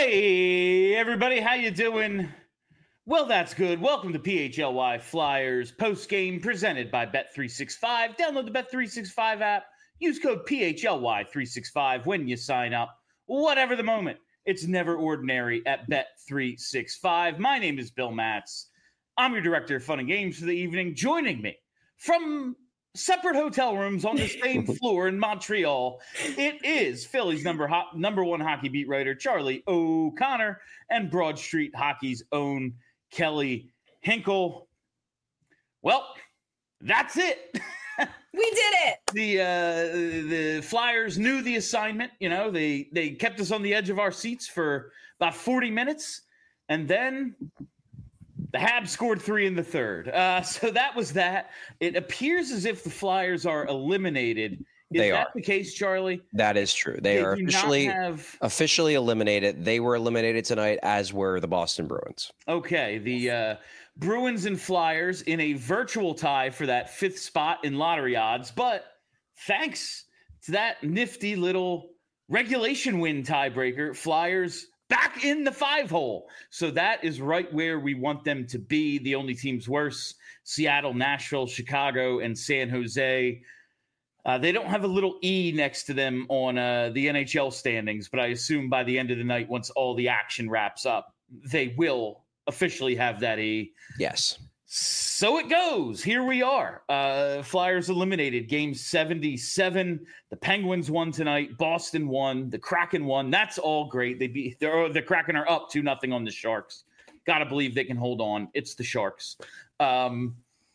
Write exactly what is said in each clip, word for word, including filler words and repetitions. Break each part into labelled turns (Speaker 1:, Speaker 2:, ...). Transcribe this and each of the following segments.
Speaker 1: Hey, everybody, how you doing? Well, that's good. Welcome to P H L Y Flyers post-game presented by Bet three sixty-five. Download the Bet three sixty-five app. Use code P H L Y three sixty-five when you sign up. Whatever the moment, it's never ordinary at Bet three sixty-five. My name is Bill Matz. I'm your director of fun and games for the evening. Joining me from separate hotel rooms on the same floor in Montreal, it is Philly's number ho- number one hockey beat writer, Charlie O'Connor, and Broad Street Hockey's own Kelly Hinkle. Well, that's it.
Speaker 2: We did it.
Speaker 1: The uh, the Flyers knew the assignment. You know, they they kept us on the edge of our seats for about forty minutes, and then the Habs scored three in the third. Uh, so that was that. It appears as if the Flyers are eliminated. Is
Speaker 3: They
Speaker 1: that
Speaker 3: are.
Speaker 1: the case, Charlie?
Speaker 3: That is true. They,
Speaker 1: They
Speaker 3: are
Speaker 1: do not
Speaker 3: officially
Speaker 1: have-
Speaker 3: officially eliminated. They were eliminated tonight, as were the Boston Bruins.
Speaker 1: Okay, the uh, Bruins and Flyers in a virtual tie for that fifth spot in lottery odds. But thanks to that nifty little regulation win tiebreaker, Flyers back in the five hole. So that is right where we want them to be. The only teams worse, Seattle, Nashville, Chicago, and San Jose. Uh, they don't have a little E next to them on uh, the N H L standings, but I assume by the end of the night, once all the action wraps up, they will officially have that E.
Speaker 3: Yes.
Speaker 1: So it goes. Here we are. Uh, Flyers eliminated. Game seventy-seven. The Penguins won tonight. Boston won. The Kraken won. That's all great. They beat they're, the Kraken are up two nothing on the Sharks. Got to believe they can hold on. It's the Sharks. Um,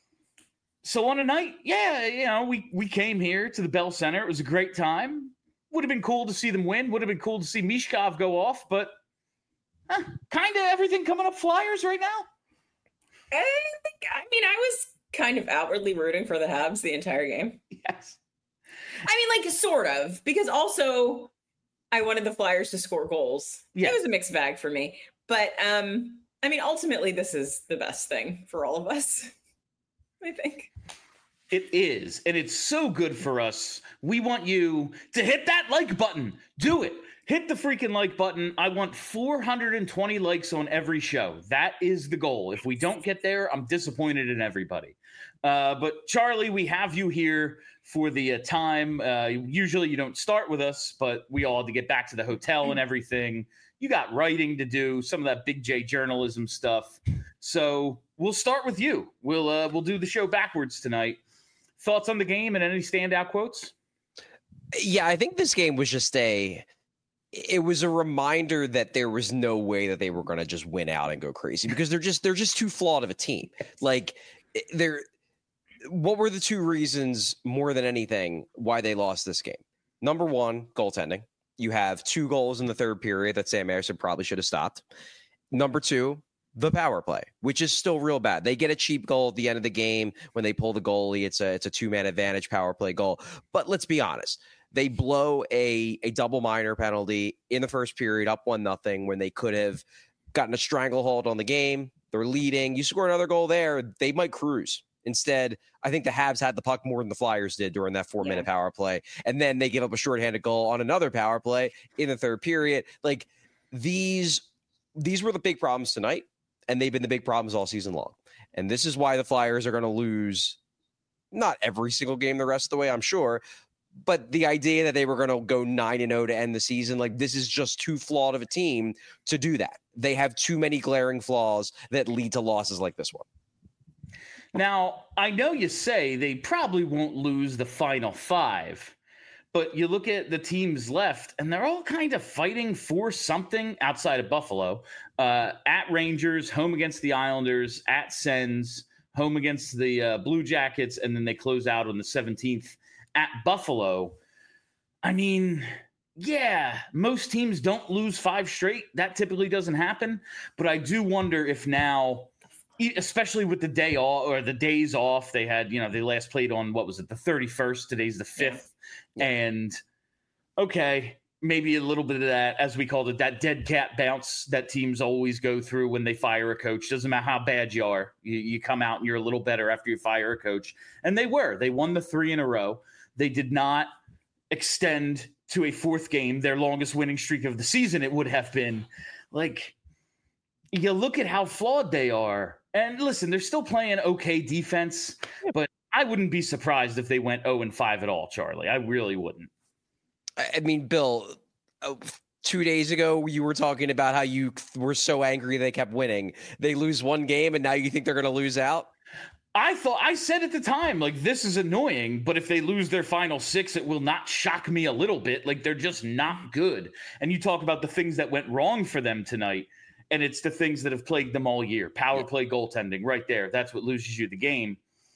Speaker 1: so on a night, yeah, you know, we we came here to the Bell Center. It was a great time. Would have been cool to see them win. Would have been cool to see Mishkov go off, but huh, kind of everything coming up Flyers right now.
Speaker 2: I, think, I mean, I was kind of outwardly rooting for the Habs the entire game.
Speaker 1: Yes.
Speaker 2: I mean, like, sort of, because also I wanted the Flyers to score goals.
Speaker 1: Yes.
Speaker 2: It was a mixed bag for me. But, um, I mean, ultimately, this is the best thing for all of us, I think.
Speaker 1: It is, and it's so good for us. We want you to hit that like button. Do it. Hit the freaking like button. I want four hundred twenty likes on every show. That is the goal. If we don't get there, I'm disappointed in everybody. Uh, but Charlie, we have you here for the uh, time. Uh, usually you don't start with us, but we all had to get back to the hotel and everything. You got writing to do, some of that Big J journalism stuff. So we'll start with you. We'll uh, we'll do the show backwards tonight. Thoughts on the game and any standout quotes?
Speaker 3: Yeah, I think this game was just a it was a reminder that there was no way that they were going to just win out and go crazy, because they're just they're just too flawed of a team. Like they're what were the two reasons more than anything why they lost this game? Number one, goaltending. You have two goals in the third period that Sam Ersson probably should have stopped. Number two, the power play, which is still real bad. They get a cheap goal at the end of the game when they pull the goalie. It's a it's a two-man advantage power play goal. But let's be honest. They blow a, a double minor penalty in the first period, up one nothing, when they could have gotten a stranglehold on the game. They're leading. You score another goal there, they might cruise. Instead, I think the Habs had the puck more than the Flyers did during that four-minute yeah. power play. And then they give up a shorthanded goal on another power play in the third period. Like, these these were the big problems tonight, and they've been the big problems all season long. And this is why the Flyers are going to lose not every single game the rest of the way, I'm sure, but the idea that they were going to go nine and oh to end the season, like, this is just too flawed of a team to do that. They have too many glaring flaws that lead to losses like this one.
Speaker 1: Now, I know you say they probably won't lose the final five, but you look at the teams left, and they're all kind of fighting for something outside of Buffalo. Uh, at Rangers, home against the Islanders, at Sens, home against the uh, Blue Jackets, and then they close out on the seventeenth at Buffalo. I mean, yeah, most teams don't lose five straight. That typically doesn't happen. But I do wonder if now, especially with the day off or the days off, they had, you know, they last played on, what was it, the thirty-first, today's the fifth. Yeah. Yeah. And okay, maybe a little bit of that, as we called it, that dead cat bounce that teams always go through when they fire a coach. Doesn't matter how bad you are. You, you come out and you're a little better after you fire a coach. And they were. They won the three in a row. They did not extend to a fourth game, their longest winning streak of the season, it would have been. like you look at how flawed they are. And listen, they're still playing okay defense, but I wouldn't be surprised if they went oh and five at all, Charlie. I really wouldn't.
Speaker 3: I mean, Bill, uh, two days ago, you were talking about how you were so angry they kept winning. They lose one game, and now you think they're going to lose out?
Speaker 1: I thought I said at the time, like, this is annoying, but if they lose their final six, it will not shock me a little bit. Like, they're just not good. And you talk about the things that went wrong for them tonight, and it's the things that have plagued them all year. Power yeah. play, goaltending, right there. That's what loses you the game.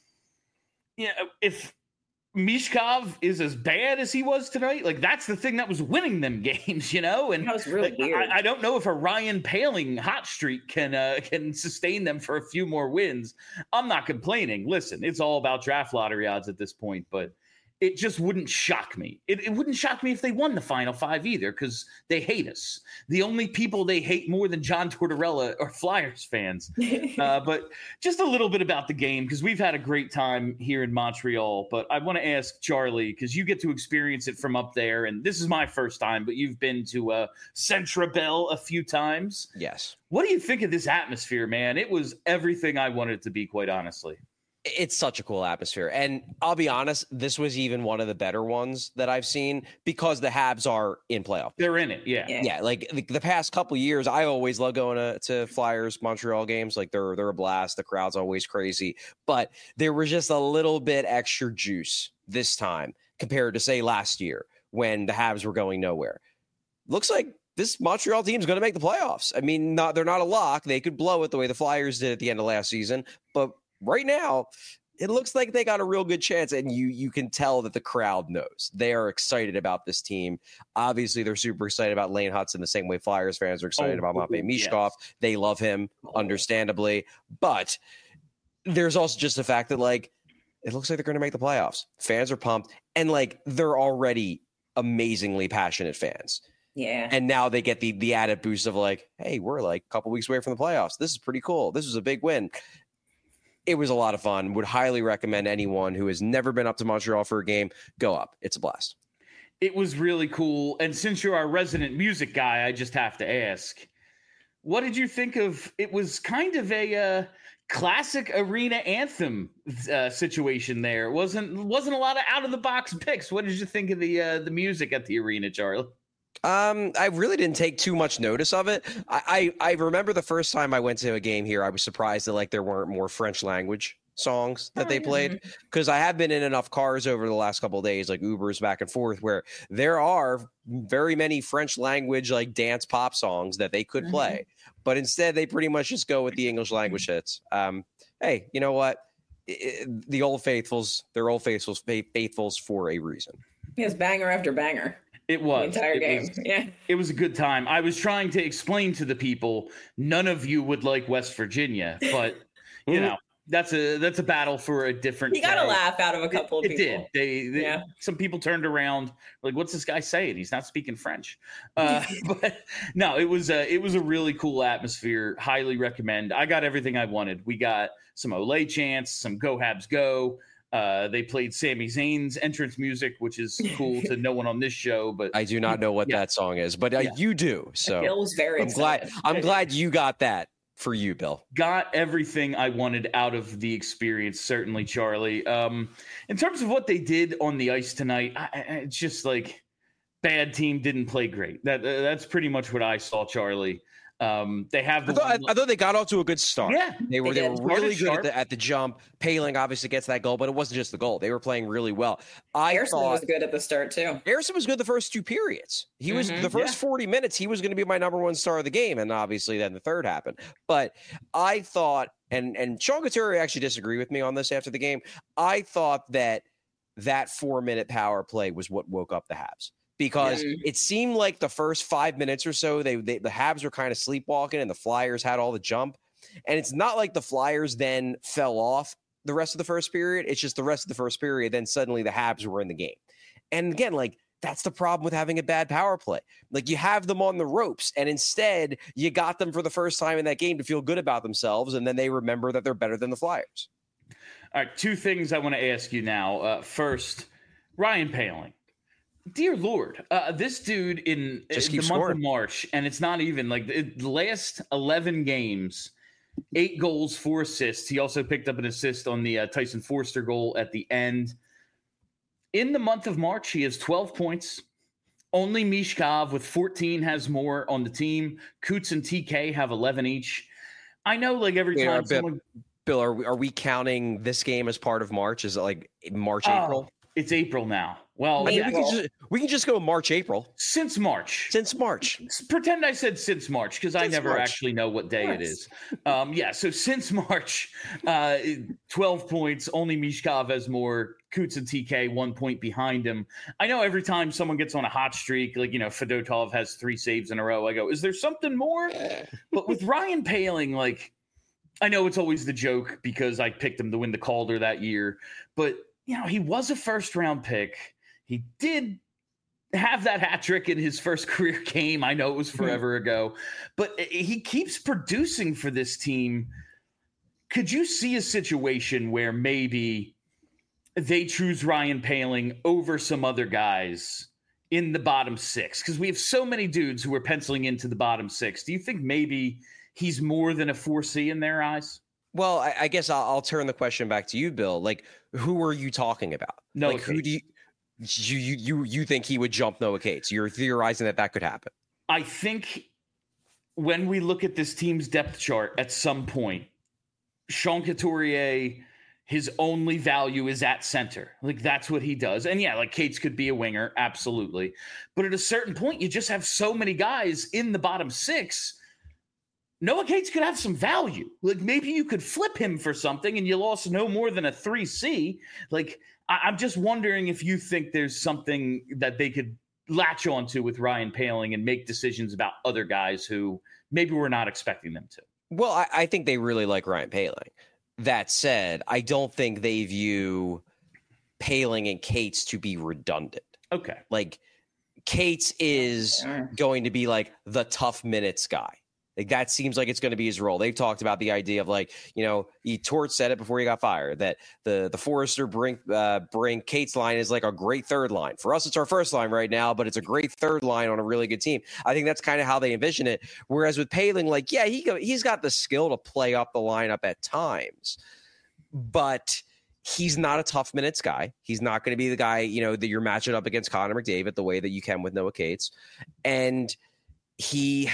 Speaker 1: Yeah, if Michkov is as bad as he was tonight, like, that's the thing that was winning them games, you know? And
Speaker 2: that was really
Speaker 1: like,
Speaker 2: weird.
Speaker 1: I, I don't know if a Ryan Poehling hot streak can uh, can sustain them for a few more wins. I'm not complaining. Listen, it's all about draft lottery odds at this point, but it just wouldn't shock me. It, it wouldn't shock me if they won the final five either, because they hate us. The only people they hate more than John Tortorella are Flyers fans. uh, but just a little bit about the game, because we've had a great time here in Montreal. But I want to ask Charlie, because you get to experience it from up there, and this is my first time, but you've been to uh, Centre Bell a few times.
Speaker 3: Yes.
Speaker 1: What do you think of this atmosphere, man? It was everything I wanted it to be, quite honestly.
Speaker 3: It's such a cool atmosphere. And I'll be honest, this was even one of the better ones that I've seen because the Habs are in playoff.
Speaker 1: They're in it, yeah.
Speaker 3: Yeah, yeah like the, the past couple years, I always love going to, to Flyers Montreal games. Like they're they're a blast. The crowd's always crazy. But there was just a little bit extra juice this time compared to, say, last year when the Habs were going nowhere. Looks like this Montreal team is going to make the playoffs. I mean, not, they're not a lock. They could blow it the way the Flyers did at the end of last season. But right now, it looks like they got a real good chance, and you you can tell that the crowd knows. They are excited about this team. Obviously, they're super excited about Lane Hutson the same way Flyers fans are excited oh, about Matvei Michkov. Yes. They love him, understandably. But there's also just the fact that, like, it looks like they're going to make the playoffs. Fans are pumped, and, like, they're already amazingly passionate fans.
Speaker 2: Yeah.
Speaker 3: And now they get the the added boost of, like, hey, we're, like, a couple weeks away from the playoffs. This is pretty cool. This was a big win. It was a lot of fun. Would highly recommend anyone who has never been up to Montreal for a game, go up. It's a blast.
Speaker 1: It was really cool. And since you're our resident music guy, I just have to ask, what did you think of, it was kind of a uh, classic arena anthem uh, situation there. It wasn't wasn't a lot of out of the box picks. What did you think of the uh, the music at the arena, Charlie?
Speaker 3: Um, I really didn't take too much notice of it. I, I, I remember the first time I went to a game here, I was surprised that like there weren't more French language songs that they played, because I have been in enough cars over the last couple of days, like Ubers back and forth, where there are very many French language like dance pop songs that they could play, mm-hmm. but instead they pretty much just go with the English language hits. Um, hey, you know what? It, it, the old faithfuls, they're old faithfuls, faithfuls for a reason.
Speaker 2: Yes, banger after banger.
Speaker 1: It was
Speaker 2: the entire
Speaker 1: it
Speaker 2: game.
Speaker 1: Was,
Speaker 2: yeah,
Speaker 1: it was a good time. I was trying to explain to the people, none of you would like West Virginia, but you know that's a that's a battle for a different.
Speaker 2: You got
Speaker 1: a
Speaker 2: uh, laugh out of a couple
Speaker 1: it,
Speaker 2: of people.
Speaker 1: It did. They, they yeah. Some people turned around like, "What's this guy saying? He's not speaking French." Uh, but no, it was a it was a really cool atmosphere. Highly recommend. I got everything I wanted. We got some Olay chants, some Go Habs Go. Uh, they played Sami Zayn's entrance music, which is cool to no one on this show. But
Speaker 3: I do not know what yeah. that song is, but uh, yeah. you do. So
Speaker 2: Bill was very
Speaker 3: I'm glad. I'm glad you got that for you, Bill.
Speaker 1: Got everything I wanted out of the experience. Certainly, Charlie. Um, in terms of what they did on the ice tonight, I, I, it's just like bad team didn't play great. That uh, that's pretty much what I saw, Charlie. Um, they have. The
Speaker 3: I, thought, I thought they got off to a good start.
Speaker 1: Yeah,
Speaker 3: they were. They, they were really good at the, at the jump. Poehling obviously gets that goal, but it wasn't just the goal. They were playing really well. I
Speaker 2: Harrison
Speaker 3: thought,
Speaker 2: was good at the start too.
Speaker 3: Harrison was good the first two periods. He was mm-hmm, the first yeah. forty minutes. He was going to be my number one star of the game, and obviously then the third happened. But I thought, and and Sean Couturier actually disagreed with me on this after the game. I thought that that four minute power play was what woke up the Habs. Because yeah. it seemed like the first five minutes or so, they, they the Habs were kind of sleepwalking and the Flyers had all the jump. And it's not like the Flyers then fell off the rest of the first period. It's just the rest of the first period. Then suddenly the Habs were in the game. And again, like that's the problem with having a bad power play. Like you have them on the ropes and instead you got them for the first time in that game to feel good about themselves. And then they remember that they're better than the Flyers.
Speaker 1: All right. Two things I want to ask you now. Uh, first, Ryan Poehling. dear Lord, uh, this dude in,
Speaker 3: Just
Speaker 1: in
Speaker 3: keep
Speaker 1: the
Speaker 3: scoring.
Speaker 1: month of March, and it's not even like the the last eleven games, eight goals, four assists. He also picked up an assist on the uh, Tyson Forster goal at the end. In the month of March, he has twelve points. Only Mishkov with fourteen has more on the team. Coots and T K have eleven each. I know, like every
Speaker 3: Yeah,
Speaker 1: time
Speaker 3: Bill,
Speaker 1: someone,
Speaker 3: Bill, are we, are we counting this game as part of March? Is it like March,
Speaker 1: Oh,
Speaker 3: April?
Speaker 1: it's April now. Well,
Speaker 3: I mean,
Speaker 1: yeah,
Speaker 3: we can just we can just go March, April.
Speaker 1: since March.
Speaker 3: Since March.
Speaker 1: Pretend I said since March because I
Speaker 3: Since
Speaker 1: never
Speaker 3: March.
Speaker 1: actually know what day it
Speaker 2: Yes.
Speaker 1: is. Um, yeah, so since March, uh, twelve points. Only Mishkov has more. Coots and T K one point behind him. I know every time someone gets on a hot streak, like, you know, Fedotov has three saves in a row, I go, is there something more? But with Ryan Poehling, like, I know it's always the joke because I picked him to win the Calder that year, but, you know, he was a first round pick. He did have that hat trick in his first career game. I know it was forever ago, but he keeps producing for this team. Could you see a situation where maybe they choose Ryan Poehling over some other guys in the bottom six? Because we have so many dudes who are penciling into the bottom six. Do you think maybe he's more than a four C in their eyes?
Speaker 3: Well, I, I guess I'll, I'll turn the question back to you, Bill. Like, who are you talking about?
Speaker 1: Noah
Speaker 3: like, who
Speaker 1: Cates.
Speaker 3: do you, you you you you think he would jump Noah Cates? You're theorizing that that could happen.
Speaker 1: I think when we look at this team's depth chart at some point, Sean Couturier, his only value is at center. Like, that's what he does. And yeah, like, Cates could be a winger, absolutely. But at a certain point, you just have so many guys in the bottom six. Noah Cates could have some value. Like, maybe you could flip him for something and you lost no more than a three C. Like, I- I'm just wondering if you think there's something that they could latch onto with Ryan Poehling and make decisions about other guys who maybe we're not expecting them to.
Speaker 3: Well, I, I think they really like Ryan Poehling. That said, I don't think they view Poehling and Cates to be redundant.
Speaker 1: Okay.
Speaker 3: Like, Cates is
Speaker 2: Yeah.
Speaker 3: going to be like the tough minutes guy. Like, that seems like it's going to be his role. They've talked about the idea of, like, you know, he Torts said it before he got fired, that the the Forrester Brink uh, Brink Cates line is like a great third line. For us, it's our first line right now, but it's a great third line on a really good team. I think that's kind of how they envision it. Whereas with Poehling, like, yeah, he go, he's got the skill to play up the lineup at times, but he's not a tough minutes guy. He's not going to be the guy, you know, that you're matching up against Connor McDavid the way that you can with Noah Cates. And he,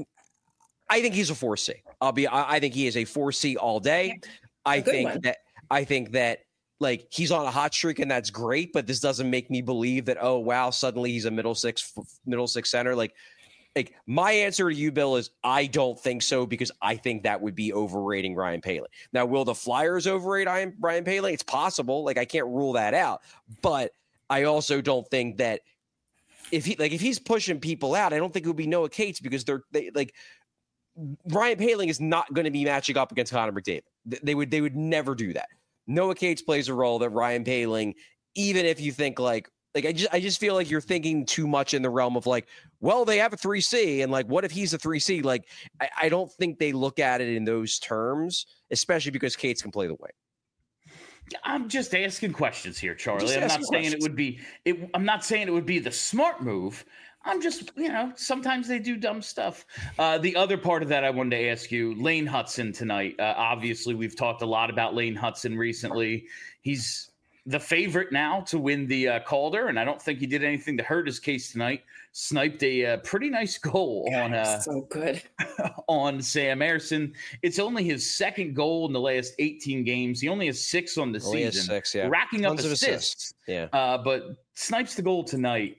Speaker 3: I think he's a four C. I'll be, I, I think he is a four C all day. I
Speaker 2: good
Speaker 3: think
Speaker 2: one.
Speaker 3: that, I think that, like, he's on a hot streak and that's great, but this doesn't make me believe that, oh, wow, suddenly he's a middle six, middle six center. Like, like my answer to you, Bill, is I don't think so, because I think that would be overrating Ryan Poehling. Now, will the Flyers overrate Ryan Poehling? It's possible. Like, I can't rule that out, but I also don't think that if he, like, if he's pushing people out, I don't think it would be Noah Cates, because they're they like Ryan Poehling is not going to be matching up against Connor McDavid. They would, they would never do that. Noah Cates plays a role that Ryan Poehling, even if you think like, Like, I just I just feel like you're thinking too much in the realm of, like, well, they have a three C, and, like, what if he's a three C? Like, I, I don't think they look at it in those terms, especially because Cates can play the wing.
Speaker 1: I'm just asking questions here, Charlie.
Speaker 3: Just
Speaker 1: I'm not
Speaker 3: asking
Speaker 1: saying
Speaker 3: questions.
Speaker 1: it would be it, I'm not saying it would be the smart move. I'm just, you know, sometimes they do dumb stuff. Uh, the other part of that I wanted to ask you, Lane Hutson tonight. Uh, obviously, we've talked a lot about Lane Hutson recently. He's the favorite now to win the uh, Calder, and I don't think he did anything to hurt his case tonight. Sniped a uh, pretty nice goal on uh,
Speaker 2: So good.
Speaker 1: on Sam Ersson. It's only his second goal in the last eighteen games. He only has six on the
Speaker 3: Only has
Speaker 1: season,
Speaker 3: six, yeah.
Speaker 1: racking
Speaker 3: Tons
Speaker 1: up
Speaker 3: of
Speaker 1: assists.
Speaker 3: assists. Yeah.
Speaker 1: Uh, but snipes the goal tonight.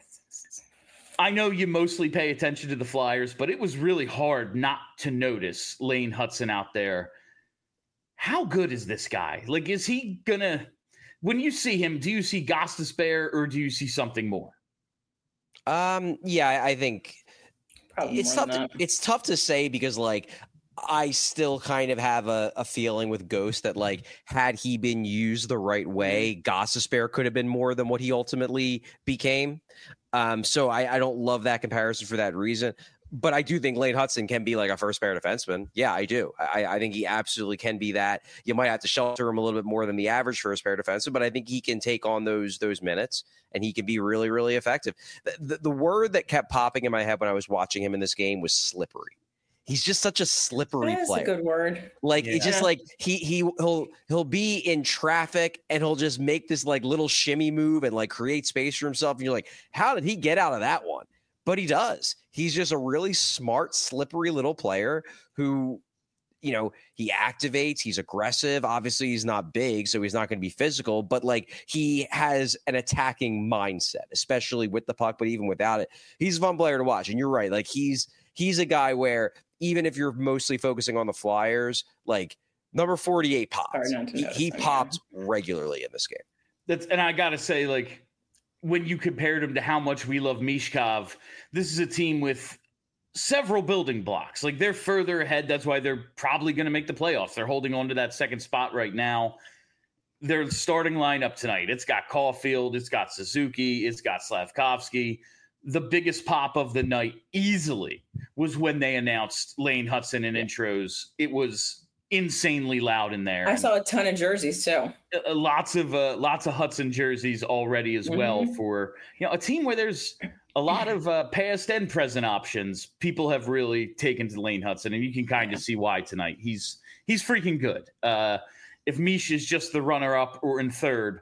Speaker 1: I know you mostly pay attention to the Flyers, but it was really hard not to notice Lane Hutson out there. How good is this guy? Like, is he gonna? When you see him, do you see Gostisbehere or do you see something more?
Speaker 3: Um. Yeah, I I think
Speaker 2: Probably
Speaker 3: it's
Speaker 2: more
Speaker 3: tough.
Speaker 2: than
Speaker 3: To, it's tough to say, because, like, I still kind of have a, a feeling with Ghost that, like, had he been used the right way, Gostisbehere could have been more than what he ultimately became. Um, so I, I don't love that comparison for that reason. but I do think Lane Hudson can be like a first pair defenseman. Yeah, I do. I, I think he absolutely can be that. You might have to shelter him a little bit more than the average first pair defenseman, but I think he can take on those those minutes and he can be really, really effective. The, the, the word that kept popping in my head when I was watching him in this game was slippery. He's just such a slippery
Speaker 2: That's
Speaker 3: player.
Speaker 2: a good word.
Speaker 3: Like
Speaker 1: Yeah.
Speaker 3: it's just like he he he'll he'll be in traffic and he'll just make this like little shimmy move and like create space for himself. And you're like, how did he get out of that one? But he does. He's just a really smart, slippery little player who, you know, he activates. He's aggressive. Obviously, he's not big, so he's not going to be physical. But like he has an attacking mindset, especially with the puck. But even without it, he's a fun player to watch. And you're right. Like he's he's a guy where even if you're mostly focusing on the Flyers, like number forty-eight pops. He, he popped regularly in this game.
Speaker 1: That's and I gotta say, like, when you compared him to how much we love Mishkov, this is a team with several building blocks. Like they're further ahead. That's why they're probably going to make the playoffs. They're holding on to that second spot right now. Their starting lineup tonight, it's got Caulfield, it's got Suzuki, it's got Slavkovsky. The biggest pop of the night easily was when they announced Lane Hudson in intros. It was insanely loud in there.
Speaker 2: I saw a ton of jerseys too.
Speaker 1: Uh, lots of uh, lots of Hudson jerseys already as well
Speaker 2: Mm-hmm.
Speaker 1: for, you know, a team where there's a lot of uh, past and present options. People have really taken to Lane Hudson, and you can kind of see why tonight. He's he's freaking good. Uh, if Mish is just the runner up or in third,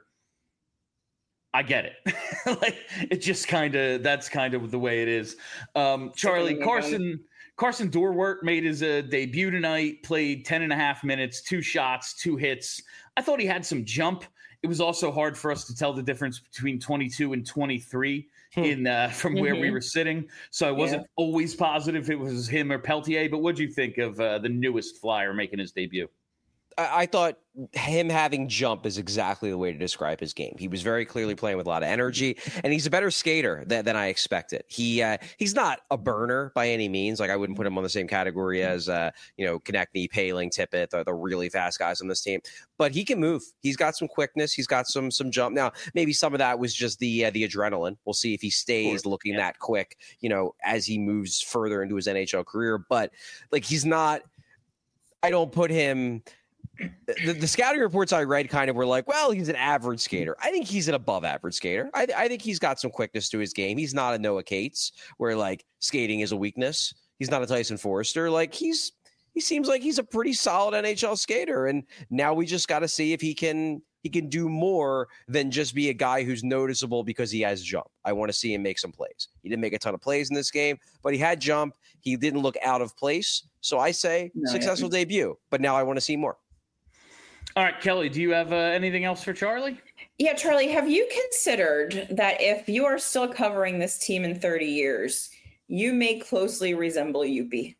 Speaker 1: I get it. Like it just kind of that's kind of the way it is. Um, Charlie Carson Carson Dorwart made his uh, debut tonight. Played ten and a half minutes, two shots, two hits. I thought he had some jump. It was also hard for us to tell the difference between twenty-two and twenty-three in uh, from where
Speaker 2: Mm-hmm.
Speaker 1: we were sitting. So I wasn't yeah. always positive it was him or Peltier. But what'd you think of uh, the newest Flyer making his debut?
Speaker 3: I, I thought him having jump is exactly the way to describe his game. He was very clearly playing with a lot of energy, and he's a better skater than, than I expected. He uh, he's not a burner by any means. Like I wouldn't put him on the same category as uh, you know Konechny, Paling, Tippett, the, the really fast guys on this team. But he can move. He's got some quickness. He's got some some jump. Now maybe some of that was just the uh, the adrenaline. We'll see if he stays looking yeah. that quick, you know, as he moves further into his N H L career. But like he's not. I don't put him. The, the scouting reports I read kind of were like, well, he's an average skater. I think he's an above average skater. I, I think he's got some quickness to his game. He's not a Noah Cates where like skating is a weakness. He's not a Tyson Forrester. Like he's, he seems like he's a pretty solid N H L skater. And now we just got to see if he can, he can do more than just be a guy who's noticeable because he has jump. I want to see him make some plays. He didn't make a ton of plays in this game, but he had jump. He didn't look out of place. So I say no, successful yeah. debut, but now I want to see more.
Speaker 1: All right, Kelly, do you have uh, anything else for Charlie?
Speaker 2: Yeah, Charlie, have you considered that if you are still covering this team in thirty years, you may closely resemble Youppi?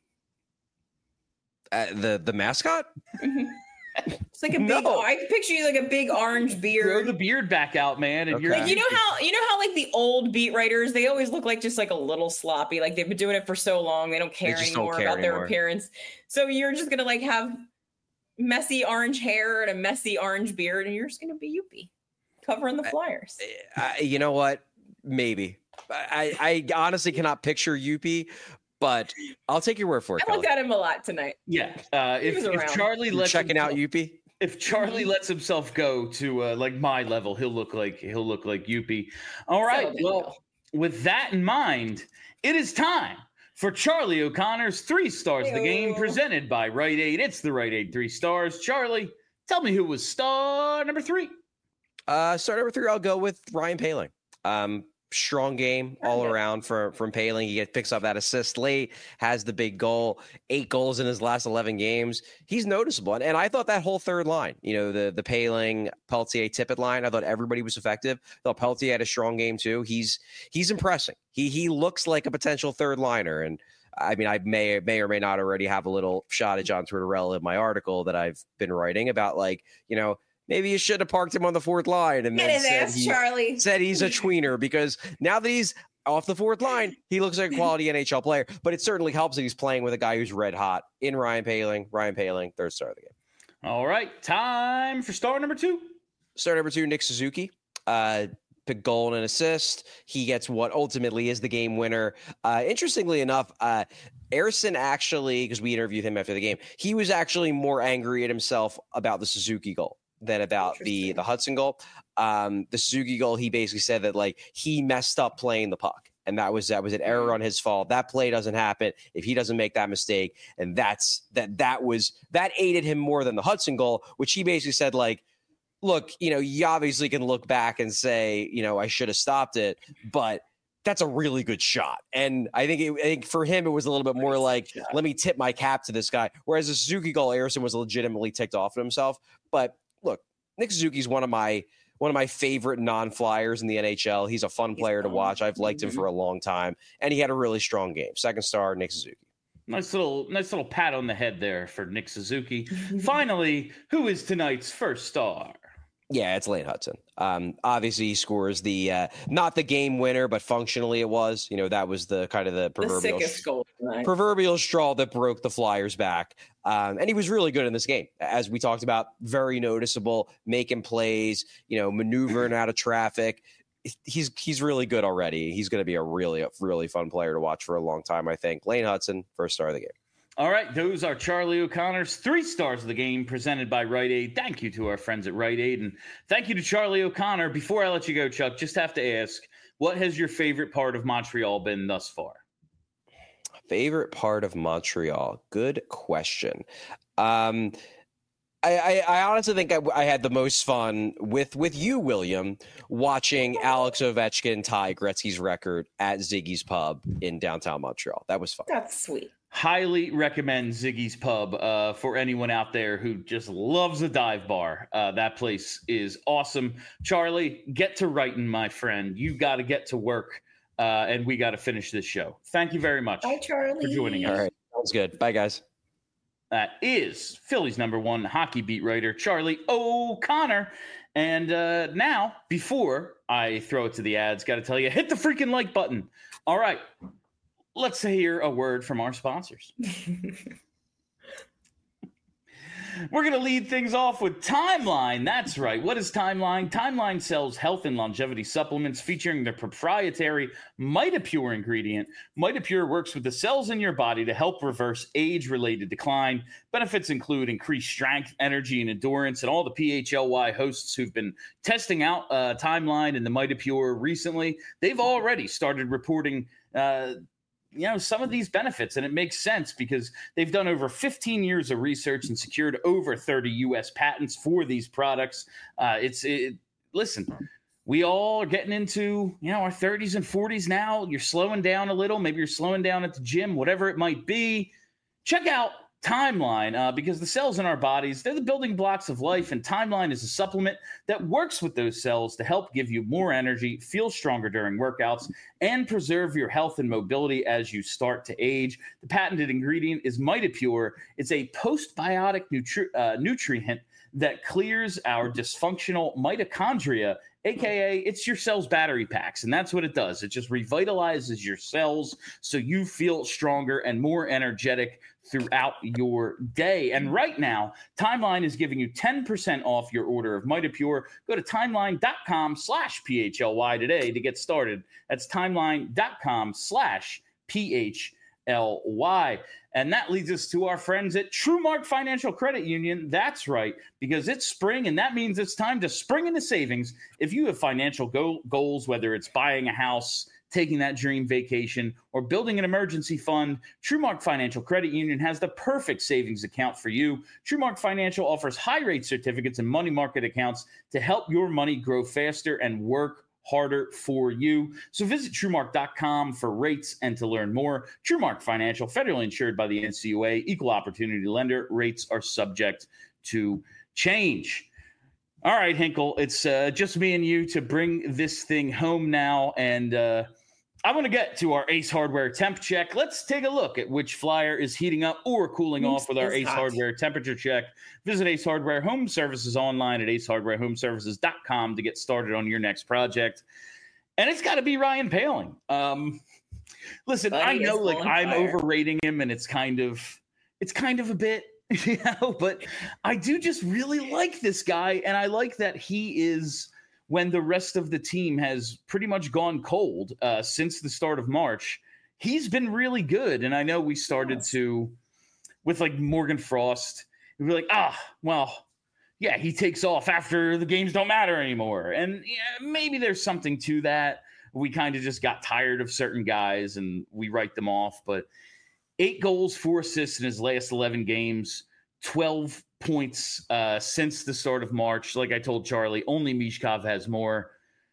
Speaker 3: Uh, the the mascot?
Speaker 2: Mm-hmm. It's like a big,
Speaker 3: no.
Speaker 2: I can picture you like a big orange beard.
Speaker 1: Grow the beard back out, man. And
Speaker 3: okay.
Speaker 1: you're
Speaker 2: like, you know how, you know how like the old beat writers, they always look like just like a little sloppy. Like they've been doing it for so long. They don't care
Speaker 3: they
Speaker 2: anymore
Speaker 3: don't care
Speaker 2: about
Speaker 3: anymore.
Speaker 2: their appearance. So you're just going to like have messy orange hair and a messy orange beard, and you're just gonna be Youppi covering the Flyers.
Speaker 3: I, I, you know what? Maybe. I, I honestly cannot picture Youppi, but I'll take your word for it.
Speaker 2: I looked at him a lot tonight.
Speaker 1: Yeah. Uh, if, if Charlie lets
Speaker 3: checking
Speaker 1: himself,
Speaker 3: out Youppi,
Speaker 1: if Charlie lets himself go to uh, like my level, he'll look like he'll look like Youppi. All right. So well, with that in mind, it is time for Charlie O'Connor's Three Stars Ew. The Game, presented by Rite Aid. It's the Rite Aid Three Stars. Charlie, tell me who was star number three.
Speaker 3: Uh, star number three, I'll go with Ryan Poehling. Um, strong game all okay. around for, from Poehling. He gets, picks up that assist late, has the big goal, eight goals in his last eleven games. He's noticeable. And, and I thought that whole third line, you know, the the Poehling, Peltier, Tippett line, I thought everybody was effective. I thought Peltier had a strong game too. He's he's impressing. He he looks like a potential third liner. And I mean, I may may or may not already have a little shot at John Tortorella in my article that I've been writing about, like, you know, maybe you should have parked him on the fourth line and
Speaker 2: Get
Speaker 3: then
Speaker 2: his
Speaker 3: said,
Speaker 2: ass,
Speaker 3: he,
Speaker 2: Charlie.
Speaker 3: said he's a tweener, because now that he's off the fourth line, he looks like a quality N H L player. But it certainly helps that he's playing with a guy who's red hot in Ryan Poehling. Ryan Poehling, third star of the game.
Speaker 1: All right, time for star number two.
Speaker 3: Star number two, Nick Suzuki. Uh, pick goal and an assist. He gets what ultimately is the game winner. Uh, interestingly enough, uh, Ersson actually, because we interviewed him after the game, he was actually more angry at himself about the Suzuki goal than about the the Hudson goal. Um, the Suzuki goal, he basically said that like he messed up playing the puck. And that was that was an error on his fault. That play doesn't happen if he doesn't make that mistake. And that's that that was that aided him more than the Hudson goal, which he basically said, like, look, you know, you obviously can look back and say, you know, I should have stopped it, but that's a really good shot. And I think it, I think for him, it was a little bit more like, let me tip my cap to this guy. Whereas the Suzuki goal, Ersson was legitimately ticked off at himself. But look, Nick Suzuki's one of my one of my favorite non-flyers in the N H L. He's a fun player to watch. I've liked him for a long time, and he had a really strong game. Second star, Nick Suzuki.
Speaker 1: Nice little, nice little pat on the head there for Nick Suzuki. Finally, who is tonight's first star?
Speaker 3: Yeah, it's Lane Hudson. Um, obviously, he scores the uh, not the game winner, but functionally it was. You know, that was the kind of the proverbial
Speaker 2: the sickest goal tonight.
Speaker 3: proverbial straw that broke the Flyers' back. Um, and he was really good in this game, as we talked about. Very noticeable, making plays. You know, maneuvering out of traffic. He's he's really good already. He's going to be a really really fun player to watch for a long time, I think. Lane Hudson, first star of the game.
Speaker 1: All right, those are Charlie O'Connor's three stars of the game presented by Rite Aid. Thank you to our friends at Rite Aid, and thank you to Charlie O'Connor. Before I let you go, Chuck, just have to ask, what has your favorite part of Montreal been thus far?
Speaker 3: Favorite part of Montreal? Good question. Um, I, I, I honestly think I, I had the most fun with, with you, William, watching Alex Ovechkin tie Gretzky's record at Ziggy's Pub in downtown Montreal. That was fun.
Speaker 2: That's sweet.
Speaker 1: Highly recommend Ziggy's Pub uh, for anyone out there who just loves a dive bar. Uh, that place is awesome. Charlie, get to writing, my friend. You got to get to work, uh, and we got to finish this show. Thank you very much
Speaker 2: Bye, Charlie.
Speaker 1: for joining us.
Speaker 3: All right. Sounds good. Bye, guys.
Speaker 1: That is Philly's number one hockey beat writer, Charlie O'Connor. And uh, now, before I throw it to the ads, got to tell you, hit the freaking like button. All right. Let's hear a word from our sponsors. We're going to lead things off with Timeline. That's right. What is Timeline? Timeline sells health and longevity supplements featuring their proprietary MitoPure ingredient. MitoPure works with the cells in your body to help reverse age-related decline. Benefits include increased strength, energy, and endurance. And all the P H L Y hosts who've been testing out uh, Timeline and the MitoPure recently, they've already started reporting uh, you know, some of these benefits, and it makes sense because they've done over fifteen years of research and secured over thirty U S patents for these products. Uh, it's it, listen, we all are getting into, you know, our thirties and forties now. You're slowing down a little. Maybe you're slowing down at the gym, whatever it might be. Check out Timeline, uh, because the cells in our bodies, they're the building blocks of life, and Timeline is a supplement that works with those cells to help give you more energy, feel stronger during workouts, and preserve your health and mobility as you start to age. The patented ingredient is MitoPure. It's a postbiotic nutri- uh, nutrient that clears our dysfunctional mitochondria, aka it's your cells' battery packs, and that's what it does. It just revitalizes your cells so you feel stronger and more energetic throughout your day. And right now, Timeline is giving you ten percent off your order of MitoPure. Go to timeline.com slash PHLY today to get started. That's timeline.com slash PHLY. And that leads us to our friends at TrueMark Financial Credit Union. That's right, because it's spring, and that means it's time to spring into savings. If you have financial go- goals, whether it's buying a house, taking that dream vacation, or building an emergency fund, TrueMark Financial Credit Union has the perfect savings account for you. TrueMark Financial offers high-rate certificates and money market accounts to help your money grow faster and work harder for you. So visit TrueMark dot com for rates and to learn more. TrueMark Financial, federally insured by the N C U A, equal opportunity lender. Rates are subject to change. All right, Hinkle, it's uh, just me and you to bring this thing home now, and uh, I want to get to our Ace Hardware temp check. Let's take a look at which flyer is heating up or cooling off with our Ace
Speaker 2: hot.
Speaker 1: Hardware temperature check. Visit Ace Hardware Home Services online at ace hardware home services dot com to get started on your next project. And it's got to be Ryan Poehling. Um, listen,
Speaker 2: Buddy
Speaker 1: I know
Speaker 2: is
Speaker 1: like
Speaker 2: on
Speaker 1: I'm
Speaker 2: fire.
Speaker 1: overrating him, and it's kind of it's kind of a bit, you know, but I do just really like this guy, and I like that he is when the rest of the team has pretty much gone cold uh, since the start of March. He's been really good. And I know we started yes. to, with like Morgan Frost, we were like, ah, well, yeah, he takes off after the games don't matter anymore. And yeah, maybe there's something to that. We kind of just got tired of certain guys and we write them off. But eight goals, four assists in his last eleven games, twelve points uh, since the start of March. Like I told Charlie, only Mishkov has more.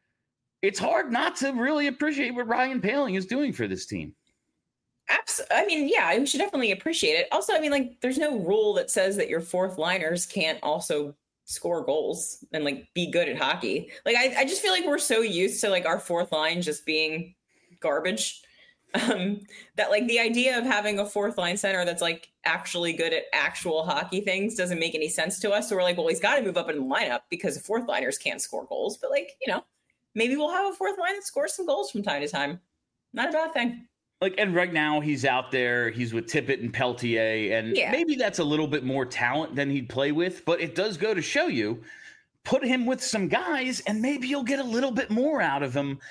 Speaker 1: It's hard not to really appreciate what Ryan Poehling is doing for this team.
Speaker 2: Absolutely. I mean, yeah, we should definitely appreciate it. Also, I mean, like, there's no rule that says that your fourth liners can't also score goals and like be good at hockey. Like, I, I just feel like we're so used to like our fourth line just being garbage. Um, that like the idea of having a fourth line center that's like actually good at actual hockey things doesn't make any sense to us. So we're like, well, he's got to move up in the lineup because fourth liners can't score goals. But like, you know, maybe we'll have a fourth line that scores some goals from time to time. Not a bad thing.
Speaker 1: Like, and right now he's out there, he's with Tippett and Peltier, and yeah. maybe that's a little bit more talent than he'd play with, but it does go to show you, put him with some guys and maybe you'll get a little bit more out of him.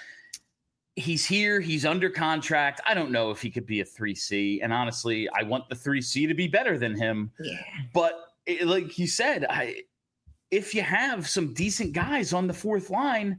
Speaker 1: He's here, he's under contract. I don't know if he could be a three C, and honestly, I want the three C to be better than him.
Speaker 2: Yeah.
Speaker 1: But it, like you said, I, if you have some decent guys on the fourth line,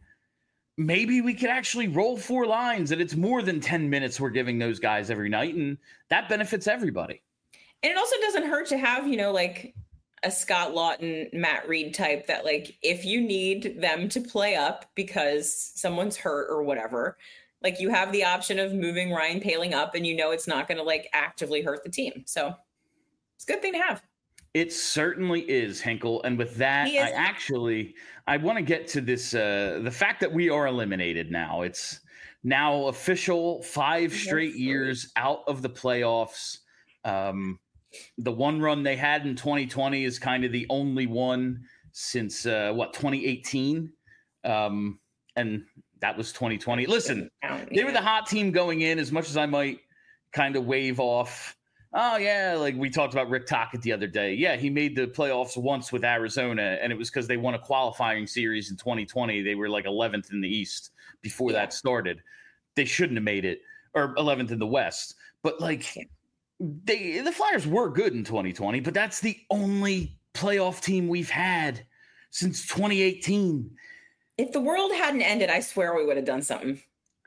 Speaker 1: maybe we could actually roll four lines and it's more than ten minutes we're giving those guys every night. And that benefits everybody.
Speaker 2: And it also doesn't hurt to have, you know, like a Scott Lawton, Matt Reed type that like, if you need them to play up because someone's hurt or whatever, like you have the option of moving Ryan Poehling up and you know, it's not going to like actively hurt the team. So it's a good thing to have.
Speaker 1: It certainly is, Hinkle. And with that, I actually, I want to get to this, uh, the fact that we are eliminated now. It's now official, five straight years out of the playoffs. Um, the one run they had in twenty twenty is kind of the only one since, uh, what, twenty eighteen? Um, and that was twenty twenty. Listen, they were the hot team going in, as much as I might kind of wave off. Oh, yeah, like we talked about Rick Tocchet the other day. Yeah, he made the playoffs once with Arizona, and it was because they won a qualifying series in twenty twenty. They were like eleventh in the East before yeah. that started. They shouldn't have made it, or eleventh in the West. But, like, they the Flyers were good in twenty twenty, but that's the only playoff team we've had since twenty eighteen.
Speaker 2: If the world hadn't ended, I swear we would have done something.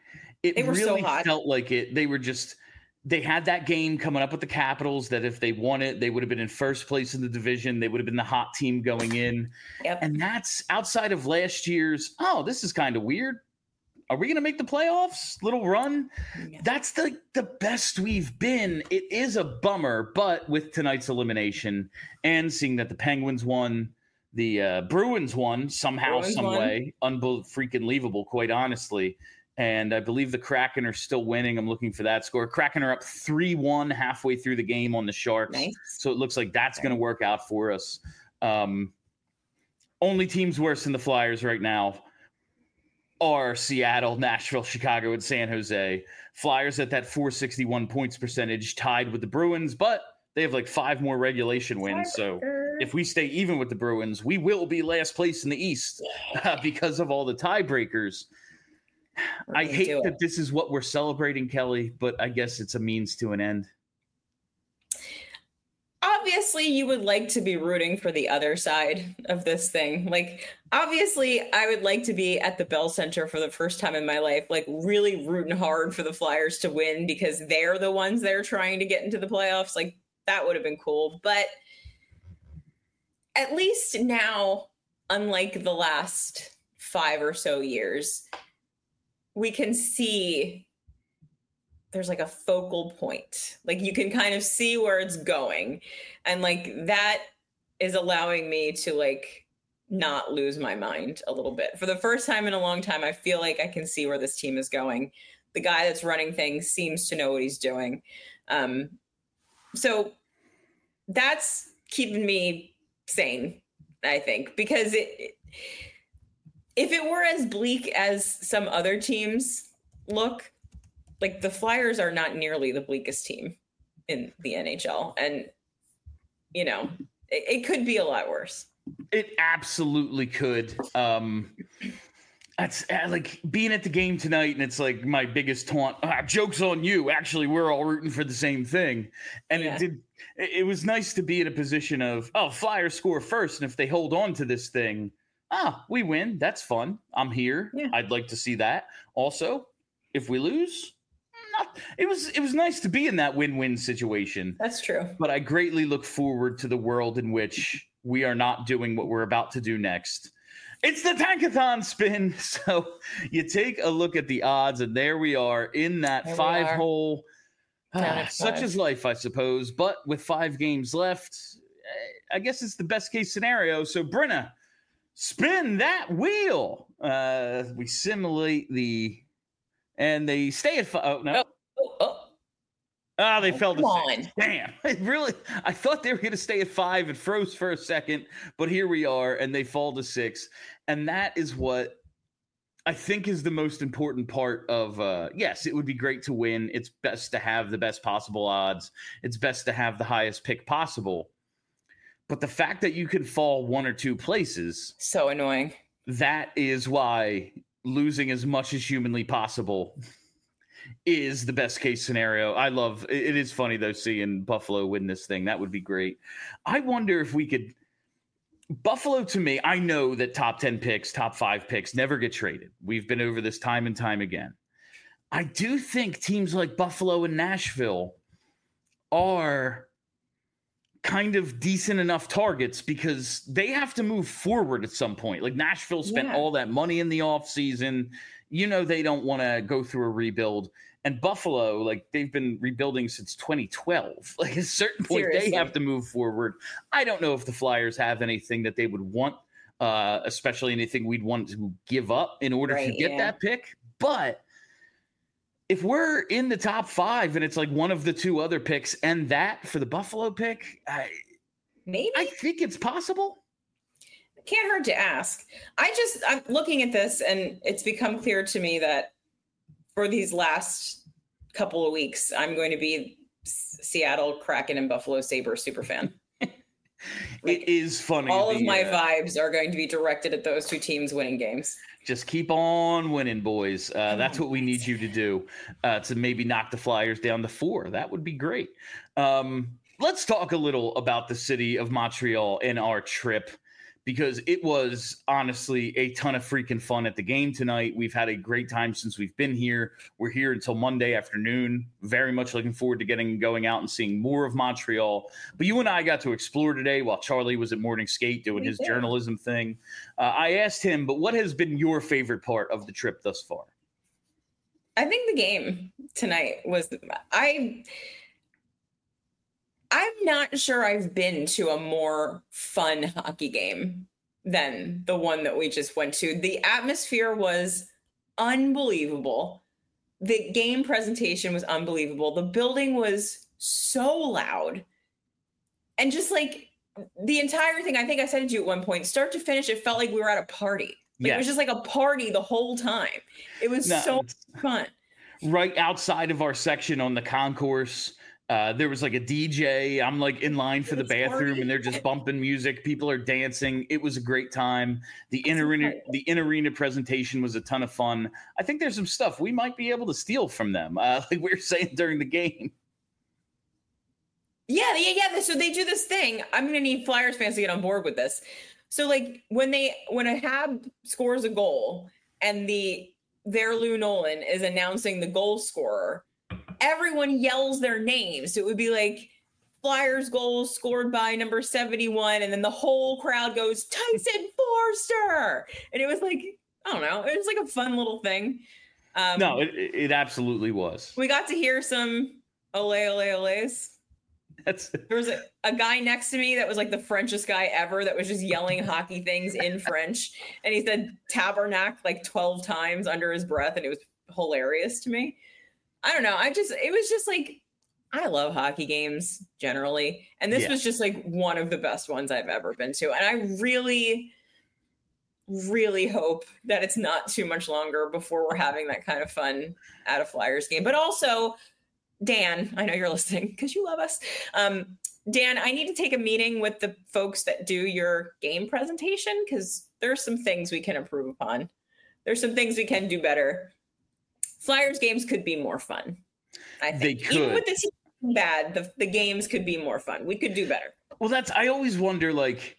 Speaker 1: It
Speaker 2: they were
Speaker 1: really
Speaker 2: so hot.
Speaker 1: felt like it. They were just... They had that game coming up with the Capitals that if they won it, they would have been in first place in the division. They would have been the hot team going in.
Speaker 2: Yep.
Speaker 1: And that's outside of last year's, oh, this is kind of weird. Are we going to make the playoffs? Little run. Yeah. That's the, the best we've been. It is a bummer, but with tonight's elimination and seeing that the Penguins won, the uh, Bruins won somehow,
Speaker 2: Bruins
Speaker 1: some
Speaker 2: won.
Speaker 1: way, unbelievable, freaking believable, quite honestly. And I believe the Kraken are still winning. I'm looking for that score. Kraken are up three one halfway through the game on the Sharks.
Speaker 2: Nice.
Speaker 1: So it looks like that's going to work out for us. Um, only teams worse than the Flyers right now are Seattle, Nashville, Chicago, and San Jose. Flyers at that four sixty-one points percentage, tied with the Bruins, but they have like five more regulation wins. So if we stay even with the Bruins, we will be last place in the East uh, because of all the tiebreakers. I hate that this is what we're celebrating, Kelly, but I guess it's a means to an end.
Speaker 2: Obviously, you would like to be rooting for the other side of this thing. Like, obviously, I would like to be at the Bell Center for the first time in my life, like really rooting hard for the Flyers to win because they're the ones that are trying to get into the playoffs. Like, that would have been cool. But at least now, unlike the last five or so years, we can see there's like a focal point. Like you can kind of see where it's going. And like that is allowing me to like not lose my mind a little bit. For the first time in a long time, I feel like I can see where this team is going. The guy that's running things seems to know what he's doing. Um, so that's keeping me sane, I think, because it, it if it were as bleak as some other teams look, like the Flyers are not nearly the bleakest team in the N H L. And, you know, it, it could be a lot worse.
Speaker 1: It absolutely could. Um, That's uh, like being at the game tonight, and it's like my biggest taunt. Ah, joke's on you. Actually, we're all rooting for the same thing, and
Speaker 2: Yeah.
Speaker 1: it did. It, it was nice to be in a position of, oh, Flyers score first, and if they hold on to this thing, ah, we win. That's fun. I'm here.
Speaker 2: Yeah.
Speaker 1: I'd like to see that. Also, if we lose, not, it was it was nice to be in that win-win situation.
Speaker 2: That's true.
Speaker 1: But I greatly look forward to the world in which we are not doing what we're about to do next. It's the Tankathon spin. So you take a look at the odds, and there we are in that
Speaker 2: There we
Speaker 1: five
Speaker 2: are.
Speaker 1: hole.
Speaker 2: Down
Speaker 1: Ah,
Speaker 2: at
Speaker 1: such
Speaker 2: five.
Speaker 1: is life, I suppose. But with five games left, eh, I guess it's the best case scenario. So, Brenna, spin that wheel. Uh, we simulate the, and they stay at five. Oh, no.
Speaker 2: Oh, oh.
Speaker 1: Ah, they
Speaker 2: Oh,
Speaker 1: fell to
Speaker 2: come
Speaker 1: six.
Speaker 2: on.
Speaker 1: Damn. It really, I thought they were going to stay at five. It froze for a second, but here we are, and they fall to six. And that is what I think is the most important part of, uh, yes, it would be great to win. It's best to have the best possible odds. It's best to have the highest pick possible. But the fact that you can fall one or two places,
Speaker 2: So annoying.
Speaker 1: that is why losing as much as humanly possible is the best case scenario. I love it. It is funny though, seeing Buffalo win this thing. That would be great. I wonder if we could. Buffalo, to me, I know that top ten picks, top five picks never get traded. We've been over this time and time again. I do think teams like Buffalo and Nashville are kind of decent enough targets because they have to move forward at some point. Like Nashville spent
Speaker 2: Yeah.
Speaker 1: all that money in the offseason. You know, they don't want to go through a rebuild. And Buffalo, like they've been rebuilding since twenty twelve. Like at a certain point,
Speaker 2: Seriously.
Speaker 1: they have to move forward. I don't know if the Flyers have anything that they would want, uh, especially anything we'd want to give up in order to
Speaker 2: Right,
Speaker 1: get
Speaker 2: yeah.
Speaker 1: that pick. But if we're in the top five and it's like one of the two other picks and that for the Buffalo pick, I,
Speaker 2: Maybe.
Speaker 1: I think it's possible.
Speaker 2: Can't hurt to ask. I just, I'm looking at this and it's become clear to me that for these last couple of weeks, I'm going to be S- Seattle Kraken and Buffalo Sabres super fan.
Speaker 1: It is funny.
Speaker 2: All of
Speaker 1: the,
Speaker 2: my
Speaker 1: uh,
Speaker 2: vibes are going to be directed at those two teams winning games.
Speaker 1: Just keep on winning, boys. Uh,
Speaker 2: Come
Speaker 1: that's
Speaker 2: on,
Speaker 1: what we need
Speaker 2: boys.
Speaker 1: you to do uh, to maybe knock the Flyers down to four. That would be great. Um, let's talk a little about the city of Montreal and our trip, because it was honestly a ton of freaking fun at the game tonight. We've had a great time since we've been here. We're here until Monday afternoon. Very much looking forward to getting going out and seeing more of Montreal. But you and I got to explore today while Charlie was at morning skate doing
Speaker 2: We
Speaker 1: his
Speaker 2: did.
Speaker 1: journalism thing. Uh, I asked him, but what has been your favorite part of the trip thus far?
Speaker 2: I think the game tonight was I I'm not sure I've been to a more fun hockey game than the one that we just went to. The atmosphere was unbelievable. The game presentation was unbelievable. The building was so loud. And just like the entire thing, I think I said it to you at one point, start to finish, it felt like we were at a party. Like, It was
Speaker 1: Yes.
Speaker 2: just like a party the whole time. It was
Speaker 1: No,
Speaker 2: so
Speaker 1: it's-
Speaker 2: fun.
Speaker 1: right outside of our section on the concourse, uh, there was like a D J. I'm like in line for the
Speaker 2: It's
Speaker 1: bathroom,
Speaker 2: party.
Speaker 1: and they're just bumping music. People are dancing. It was a great time. The in
Speaker 2: That's
Speaker 1: arena,
Speaker 2: incredible.
Speaker 1: the in arena presentation was a ton of fun. I think there's some stuff we might be able to steal from them, uh, like we were saying during the game.
Speaker 2: Yeah, yeah, yeah. So they do this thing. I'm gonna need Flyers fans to get on board with this. So like when they when a Hab scores a goal and the their Lou Nolan is announcing the goal scorer, everyone yells their names. So it would be like Flyers goal scored by number seventy-one, and then the whole crowd goes Tyson Forster, and it was like I don't know, it was like a fun little thing. Um,
Speaker 1: No, it, it absolutely was.
Speaker 2: we got to hear some ole ole oles.
Speaker 1: That's
Speaker 2: There was a, a guy next to me that was like the Frenchest guy ever that was just yelling hockey things in French. And he said tabernacle like twelve times under his breath. And it was hilarious to me. I don't know. I just, it was just like, I love hockey games generally. And this
Speaker 1: Yeah.
Speaker 2: was just like one of the best ones I've ever been to. And I really, really hope that it's not too much longer before we're having that kind of fun at a Flyers game. But also, Dan, I know you're listening because you love us. Um, Dan, I need to take a meeting with the folks that do your game presentation because there's some things we can improve upon. There's some things we can do better. Flyers games could be more fun. I think.
Speaker 1: They could.
Speaker 2: Even with the team bad, the, the games could be more fun. We could do better.
Speaker 1: Well, that's, I always wonder, like,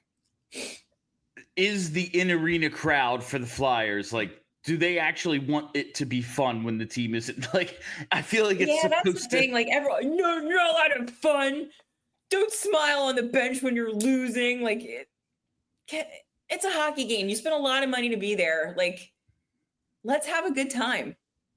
Speaker 1: is the in-arena crowd for the Flyers, like, do they actually want it to be fun when the team isn't, like, I feel like it's
Speaker 2: yeah,
Speaker 1: supposed
Speaker 2: that's the
Speaker 1: to.
Speaker 2: thing. Like, everyone, no, you're not allowed to have fun. Don't smile on the bench when you're losing. Like, it, it's a hockey game. You spend a lot of money to be there. Like, let's have a good time.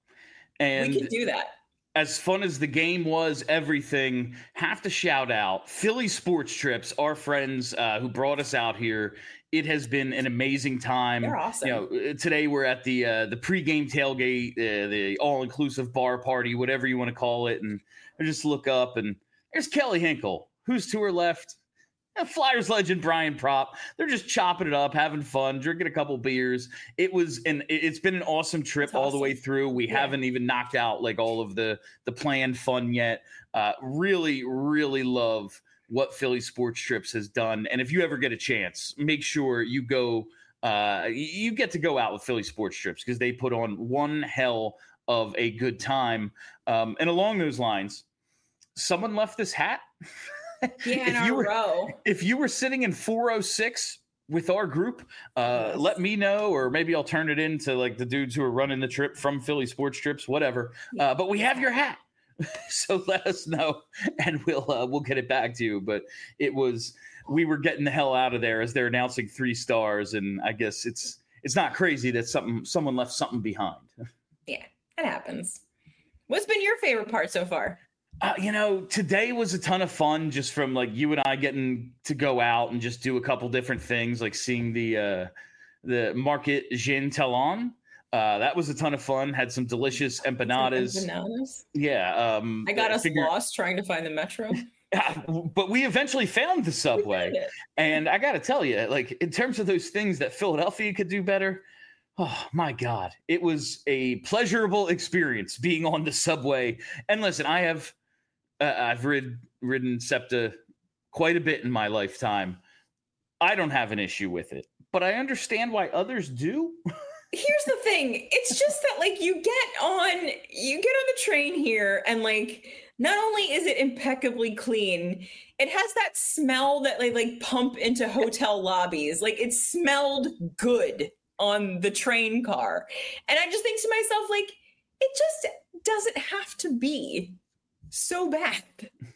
Speaker 1: And
Speaker 2: we can do that.
Speaker 1: As fun as the game was, everything, have to shout out Philly Sports Trips, our friends uh, who brought us out here. It has been an amazing time.
Speaker 2: They're awesome.
Speaker 1: You know, today we're at the uh, the pregame tailgate, uh, the all-inclusive bar party, whatever you want to call it. And I just look up, and there's Kelly Hinkle. Who's to her left? Flyers legend Brian Prop. They're just chopping it up, having fun, drinking a couple beers. It was an it's been an awesome trip
Speaker 2: That's
Speaker 1: all
Speaker 2: awesome.
Speaker 1: the way through. We
Speaker 2: Yeah.
Speaker 1: haven't even knocked out like all of the the planned fun yet. Uh, really, really love what Philly Sports Trips has done. And if you ever get a chance, make sure you go. Uh, you get to go out with Philly Sports Trips because they put on one hell of a good time. Um, and along those lines, someone left this hat.
Speaker 2: Yeah, in
Speaker 1: if you
Speaker 2: a
Speaker 1: were,
Speaker 2: row.
Speaker 1: If you were sitting in four oh six with our group, uh,
Speaker 2: Yes.
Speaker 1: let me know, or maybe I'll turn it into like the dudes who are running the trip from Philly Sports Trips, whatever. Uh, but we have your hat, so let us know, and we'll uh, we'll get it back to you. But it was we were getting the hell out of there as they're announcing three stars, and I guess it's it's not crazy that something someone left something behind.
Speaker 2: Yeah, it happens. What's been your favorite part so far?
Speaker 1: Uh, you know, today was a ton of fun just from like you and I getting to go out and just do a couple different things, like seeing the uh, the Market Jean Talon. Uh, that was a ton of fun. Had some delicious empanadas.
Speaker 2: Empanadas?
Speaker 1: Yeah. Um,
Speaker 2: I got us
Speaker 1: figured-
Speaker 2: lost trying to find the metro.
Speaker 1: Yeah, but we eventually found the
Speaker 2: We
Speaker 1: subway.
Speaker 2: found it.
Speaker 1: And I got to tell you, like in terms of those things that Philadelphia could do better, oh my God, it was a pleasurable experience being on the subway. And listen, I have uh, I've rid, ridden SEPTA quite a bit in my lifetime. I don't have an issue with it, but I understand why others do.
Speaker 2: Here's the thing. It's just that like you get on you get on the train here and like not only is it impeccably clean, it has that smell that they like pump into hotel lobbies. Like it smelled good on the train car. And I just think to myself, like, it just doesn't have to be so bad.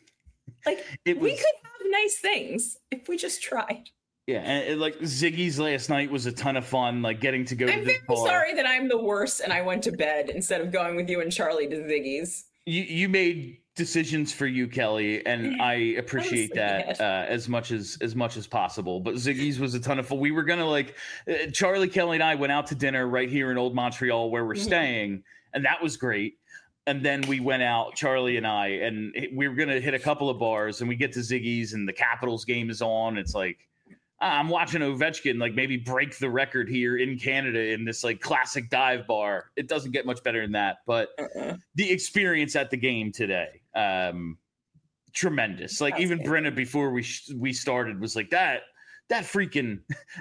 Speaker 2: Like
Speaker 1: It
Speaker 2: we
Speaker 1: was-
Speaker 2: could have nice things if we just tried.
Speaker 1: Yeah, and it, like Ziggy's last night was a ton of fun. Like getting to go
Speaker 2: I'm
Speaker 1: to
Speaker 2: very
Speaker 1: the bar.
Speaker 2: sorry that I'm the worst and I went to bed instead of going with you and Charlie to Ziggy's.
Speaker 1: You you made decisions for you, Kelly, and I appreciate
Speaker 2: Honestly,
Speaker 1: that
Speaker 2: yes.
Speaker 1: uh, as much as as much as possible. But Ziggy's was a ton of fun. We were gonna like uh, Charlie, Kelly, and I went out to dinner right here in Old Montreal where we're
Speaker 2: Mhm.
Speaker 1: staying, and that was great. And then we went out, Charlie and I, and we were gonna hit a couple of bars, and we get to Ziggy's, and the Capitals game is on. It's like. I'm watching Ovechkin like maybe break the record here in Canada in this like classic dive bar. It doesn't get much better than that, but
Speaker 2: Uh-uh.
Speaker 1: the experience at the game today, um, tremendous. Like
Speaker 2: That's
Speaker 1: even
Speaker 2: good.
Speaker 1: Brenna before we sh- we started was like that that freaking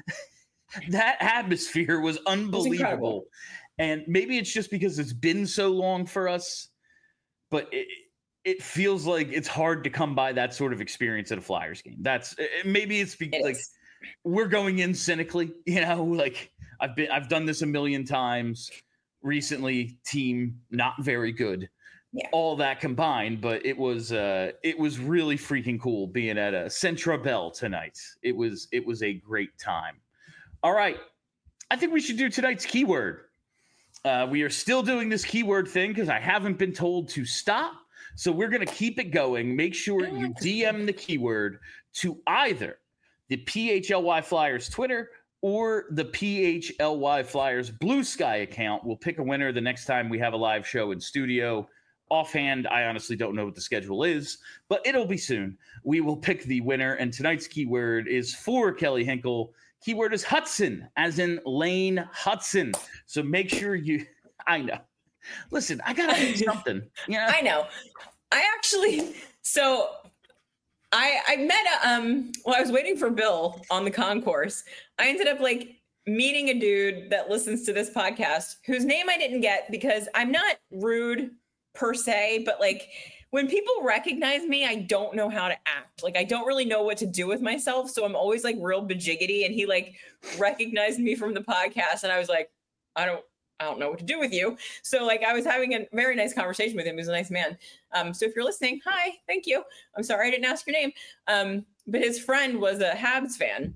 Speaker 1: that atmosphere was unbelievable.
Speaker 2: incredible.
Speaker 1: And maybe it's just because it's been so long for us, but it, it feels like it's hard to come by that sort of experience at a Flyers game. That's maybe it's because
Speaker 2: It
Speaker 1: like
Speaker 2: is.
Speaker 1: we're going in cynically, you know, like I've been I've done this a million times recently, team not very good.
Speaker 2: Yeah.
Speaker 1: All that combined, but it was uh it was really freaking cool being at a Centra Bell tonight. It was it was a great time. All right. I think we should do tonight's keyword. Uh, we are still doing this keyword thing because I haven't been told to stop. So we're going to keep it going. Make sure you D M the keyword to either the P H L Y Flyers Twitter or the P H L Y Flyers Blue Sky account. We'll pick a winner the next time we have a live show in studio. Offhand, I honestly don't know what the schedule is, but it'll be soon. We will pick the winner, and tonight's keyword is for Kelly Hinkle. Keyword is Hudson, as in Lane Hudson. So make sure you – I know. Listen, I got to do something. You know?
Speaker 2: I know. I actually so I I met a, um well I was waiting for Bill on the concourse. I ended up like meeting a dude that listens to this podcast whose name I didn't get because I'm not rude per se, but like when people recognize me, I don't know how to act. Like I don't really know what to do with myself. So I'm always like real bajiggity. And he like recognized me from the podcast and I was like, I don't, I don't know what to do with you. So like I was having a very nice conversation with him. He was a nice man. Um, so if you're listening, hi, thank you. I'm sorry I didn't ask your name. Um, but his friend was a Habs fan.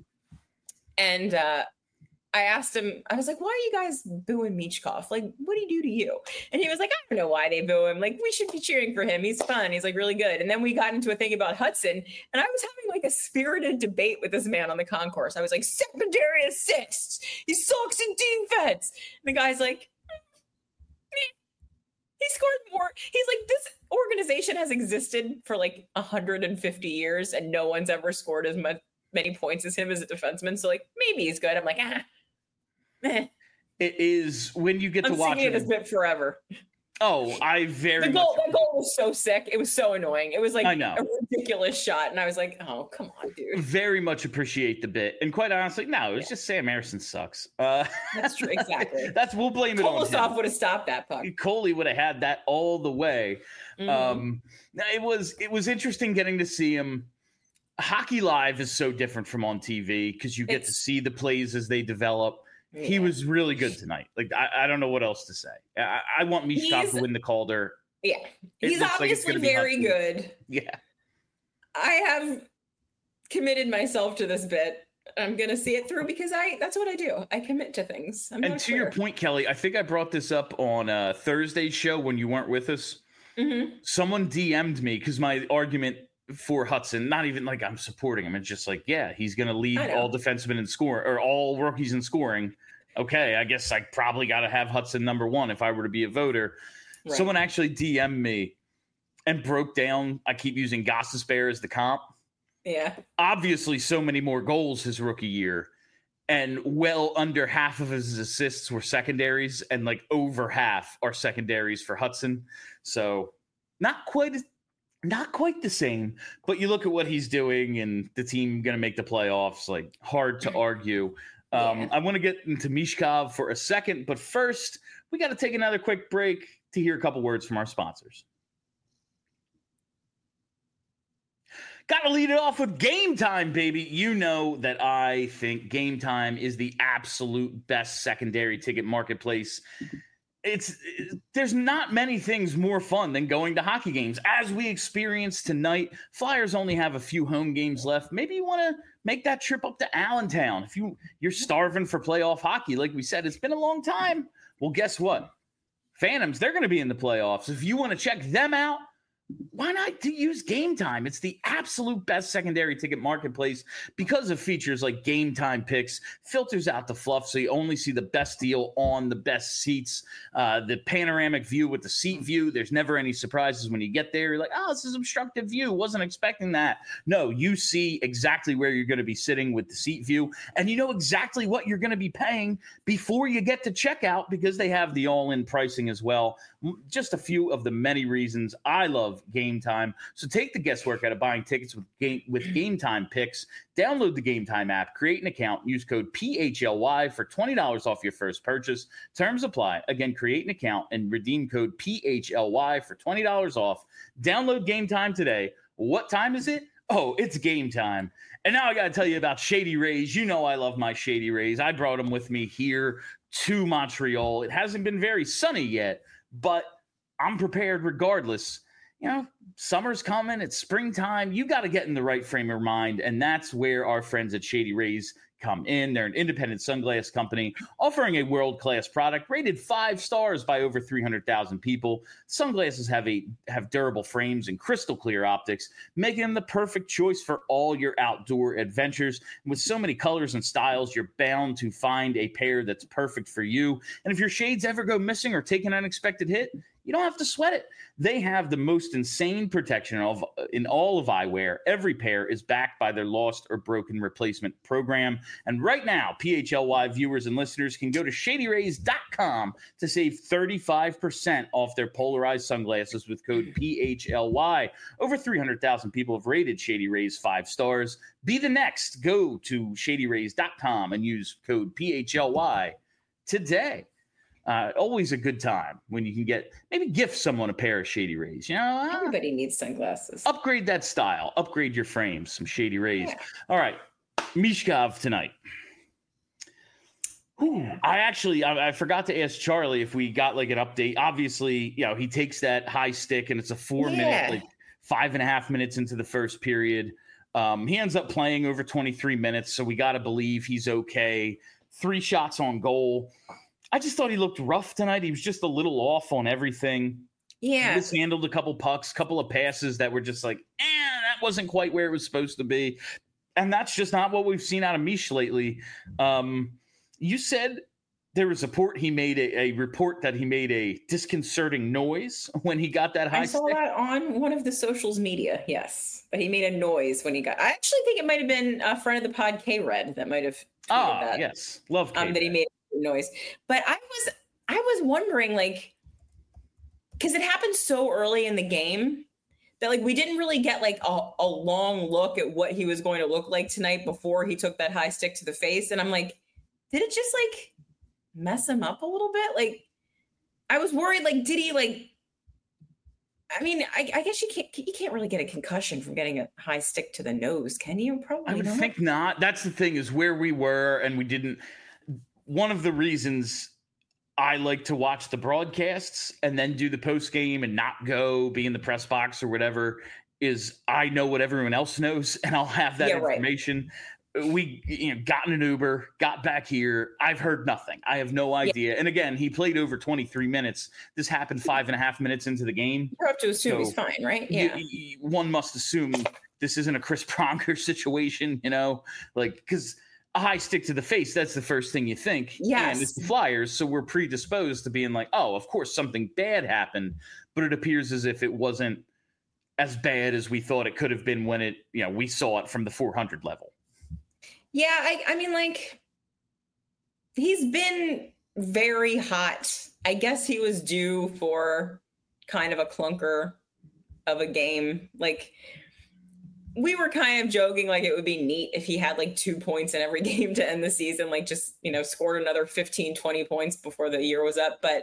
Speaker 2: And uh, I asked him, I was like, why are you guys booing Michkov? Like, what did he do to you? And he was like, I don't know why they boo him. Like, we should be cheering for him. He's fun. He's like really good. And then we got into a thing about Hudson. And I was having like a spirited debate with this man on the concourse. I was like, secondary assists. He sucks in defense. And the guy's like, meh. He scored more. He's like, this organization has existed for like one hundred fifty years and no one's ever scored as much, many points as him as a defenseman. So like, maybe he's good. I'm like, ah. Eh.
Speaker 1: It is when you get
Speaker 2: I'm
Speaker 1: to watch
Speaker 2: singing
Speaker 1: it.
Speaker 2: this bit forever.
Speaker 1: Oh, I very
Speaker 2: the goal.
Speaker 1: much.
Speaker 2: That goal was so sick. It was so annoying. It was like
Speaker 1: I know.
Speaker 2: a ridiculous shot, and I was like, "Oh, come on, dude."
Speaker 1: Very much appreciate the bit, and quite honestly, no, it's yeah. just Sam Ersson sucks. Uh,
Speaker 2: that's true. Exactly.
Speaker 1: That's we'll blame it on him.
Speaker 2: Kolosov would have stopped that puck.
Speaker 1: Coley would have had that all the way. Mm-hmm. Um, it was it was interesting getting to see him. Hockey Live is so different from on T V because you get it's, to see the plays as they develop. Yeah. He was really good tonight. Like I, I don't know what else to say. I, I want Michkov to win the Calder.
Speaker 2: Yeah, he's obviously like very good.
Speaker 1: Yeah,
Speaker 2: I have committed myself to this bit. I'm gonna see it through because I that's what I do. I commit to things. I'm
Speaker 1: and to
Speaker 2: clear.
Speaker 1: your point, Kelly, I think I brought this up on uh, Thursday's show when you weren't with us.
Speaker 2: Mm-hmm.
Speaker 1: Someone D M'd me because my argument for Hudson, not even like I'm supporting him. It's just like, yeah, he's going to lead all defensemen in scoring or all rookies in scoring. Okay, I guess I probably got to have Hudson number one if I were to be a voter. Right. Someone actually D M'd me and broke down. I keep using Gostisbehere as the comp.
Speaker 2: Yeah.
Speaker 1: Obviously, so many more goals his rookie year. And well under half of his assists were secondaries and like over half are secondaries for Hudson. So not quite as Not quite the same, but you look at what he's doing and the team going to make the playoffs, like hard to argue. Um, yeah. I want to get into Michkov for a second, but first we got to take another quick break to hear a couple words from our sponsors. Got to lead it off with Game Time, baby. You know that I think Game Time is the absolute best secondary ticket marketplace. It's there's not many things more fun than going to hockey games. As we experienced tonight, Flyers only have a few home games left. Maybe you want to make that trip up to Allentown. If you, you're starving for playoff hockey, like we said, it's been a long time. Well, guess what? Phantoms, they're going to be in the playoffs. If you want to check them out, why not to use Game Time? It's the absolute best secondary ticket marketplace because of features like Game Time Picks, filters out the fluff so you only see the best deal on the best seats, uh, the panoramic view with the seat view. There's never any surprises when you get there. You're like, oh, this is obstructive view. Wasn't expecting that. No, you see exactly where you're going to be sitting with the seat view, and you know exactly what you're going to be paying before you get to checkout because they have the all-in pricing as well. Just a few of the many reasons I love Game Time. So take the guesswork out of buying tickets with game with Game Time Picks. Download the Game Time app, create an account, use code P H L Y for twenty dollars off your first purchase. Terms apply. Again, create an account and redeem code P H L Y for twenty dollars off. Download Game Time today. What time is it? Oh, it's game time. And now I got to tell you about Shady Rays. You know I love my Shady Rays. I brought them with me here to Montreal. It hasn't been very sunny yet, but I'm prepared regardless. You know, summer's coming, it's springtime. You got to get in the right frame of mind, and that's where our friends at Shady Rays come in. They're an independent sunglass company offering a world-class product rated five stars by over three hundred thousand people. Sunglasses have a have durable frames and crystal clear optics, making them the perfect choice for all your outdoor adventures. And with so many colors and styles, you're bound to find a pair that's perfect for you. And if your shades ever go missing or take an unexpected hit, You don't have to sweat it. They have the most insane protection of in all of eyewear. Every pair is backed by their lost or broken replacement program. And right now, P H L Y viewers and listeners can go to shady rays dot com to save thirty-five percent off their polarized sunglasses with code P H L Y. Over three hundred thousand people have rated Shady Rays five stars. Be the next. Go to shady rays dot com and use code P H L Y today. Uh, always a good time when you can get, maybe gift someone a pair of Shady Rays. You know, uh,
Speaker 2: everybody needs sunglasses.
Speaker 1: Upgrade that style. Upgrade your frames. Some Shady Rays. Yeah. All right, Michkov tonight. Ooh, I actually, I, I forgot to ask Charlie if we got like an update. Obviously, you know, he takes that high stick and it's a four yeah. minute, like five and a half minutes into the first period. Um, he ends up playing over twenty-three minutes, so we got to believe he's okay. Three shots on goal. I just thought he looked rough tonight. He was just a little off on everything.
Speaker 2: Yeah.
Speaker 1: He mishandled a couple pucks, couple of passes that were just like, eh, that wasn't quite where it was supposed to be. And that's just not what we've seen out of Mish lately. Um, you said there was a report he made a, a report that he made a disconcerting noise when he got that high
Speaker 2: I saw
Speaker 1: stick.
Speaker 2: that on one of the socials media, yes. But he made a noise when he got, I actually think it might have been a friend of the pod, K-Red, that might have tweeted
Speaker 1: ah,
Speaker 2: that.
Speaker 1: yes. Love K-Red.
Speaker 2: Um, that he made noise. But I was I was wondering, like, because it happened so early in the game that like we didn't really get like a, a long look at what he was going to look like tonight before he took that high stick to the face. And I'm like, did it just like mess him up a little bit? Like, I was worried, like, did he like I mean, I, I guess you can't you can't really get a concussion from getting a high stick to the nose, can you? Probably
Speaker 1: I would
Speaker 2: not.
Speaker 1: think not. That's the thing, is where we were and we didn't. One of the reasons I like to watch the broadcasts and then do the post game and not go be in the press box or whatever is I know what everyone else knows and I'll have that
Speaker 2: yeah,
Speaker 1: information. Right. We you know, got in an Uber, got back here. I've heard nothing. I have no idea. Yeah. And again, he played over twenty-three minutes. This happened five and a half minutes into the game.
Speaker 2: You're up to assume so he's fine, right? Yeah.
Speaker 1: Y- y- one must assume this isn't a Chris Pronger situation, you know, like, because a high stick to the face, that's the first thing you think.
Speaker 2: Yes.
Speaker 1: And it's the Flyers, so we're predisposed to being like, oh, of course something bad happened. But it appears as if it wasn't as bad as we thought it could have been when it, you know, we saw it from the four hundred level.
Speaker 2: Yeah, I, I mean, like, he's been very hot. I guess he was due for kind of a clunker of a game. Like, we were kind of joking like it would be neat if he had like two points in every game to end the season, like just, you know, scored another fifteen, twenty points before the year was up. But,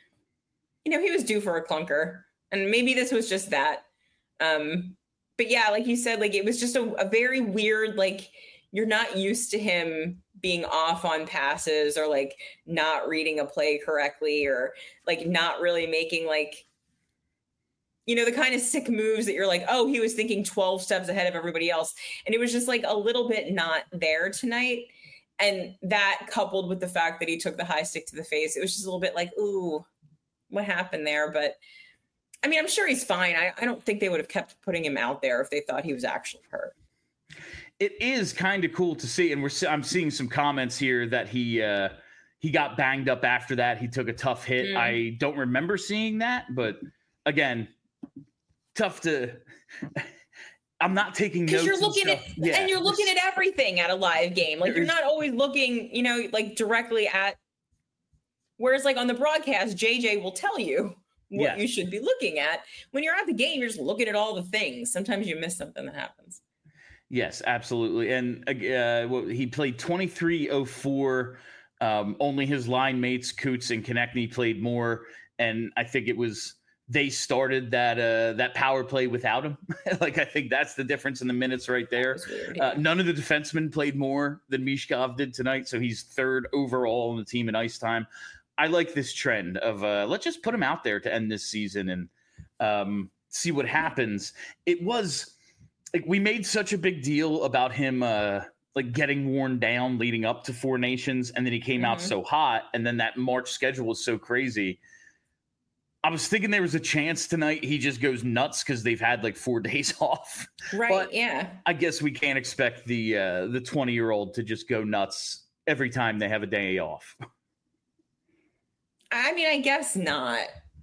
Speaker 2: you know, he was due for a clunker and maybe this was just that. Um, but yeah, like you said, like it was just a, a very weird, like you're not used to him being off on passes or like not reading a play correctly or like not really making like, you know, the kind of sick moves that you're like, oh, he was thinking twelve steps ahead of everybody else. And it was just like a little bit not there tonight. And that coupled with the fact that he took the high stick to the face, it was just a little bit like, ooh, what happened there? But I mean, I'm sure he's fine. I, I don't think they would have kept putting him out there if they thought he was actually hurt.
Speaker 1: It is kind of cool to see. And we're I'm seeing some comments here that he uh, he got banged up after that. He took a tough hit. Mm. I don't remember seeing that. But again, tough to I'm not taking notes.
Speaker 2: Because you're looking
Speaker 1: and
Speaker 2: at
Speaker 1: yeah,
Speaker 2: and you're looking at everything at a live game. Like you're
Speaker 1: is,
Speaker 2: not always looking, you know, like directly at whereas like on the broadcast, J J will tell you what yes. you should be looking at. When you're at the game, you're just looking at all the things. Sometimes you miss something that happens.
Speaker 1: Yes, absolutely. And uh, well, he played twenty-three oh four. Um, only his line mates, Coots and Konechny, played more. And I think it was they started that uh, that power play without him. Like, I think that's the difference in the minutes right there. Weird, yeah. uh, none of the defensemen played more than Michkov did tonight, so he's third overall on the team in ice time. I like this trend of uh, let's just put him out there to end this season and um, see what happens. It was like we made such a big deal about him uh, like getting worn down leading up to Four Nations, and then he came mm-hmm. out so hot, and then that March schedule was so crazy. I was thinking there was a chance tonight he just goes nuts because they've had like four days off.
Speaker 2: Right,
Speaker 1: but
Speaker 2: yeah.
Speaker 1: I guess we can't expect the uh, the twenty-year-old to just go nuts every time they have a day off.
Speaker 2: I mean, I guess not.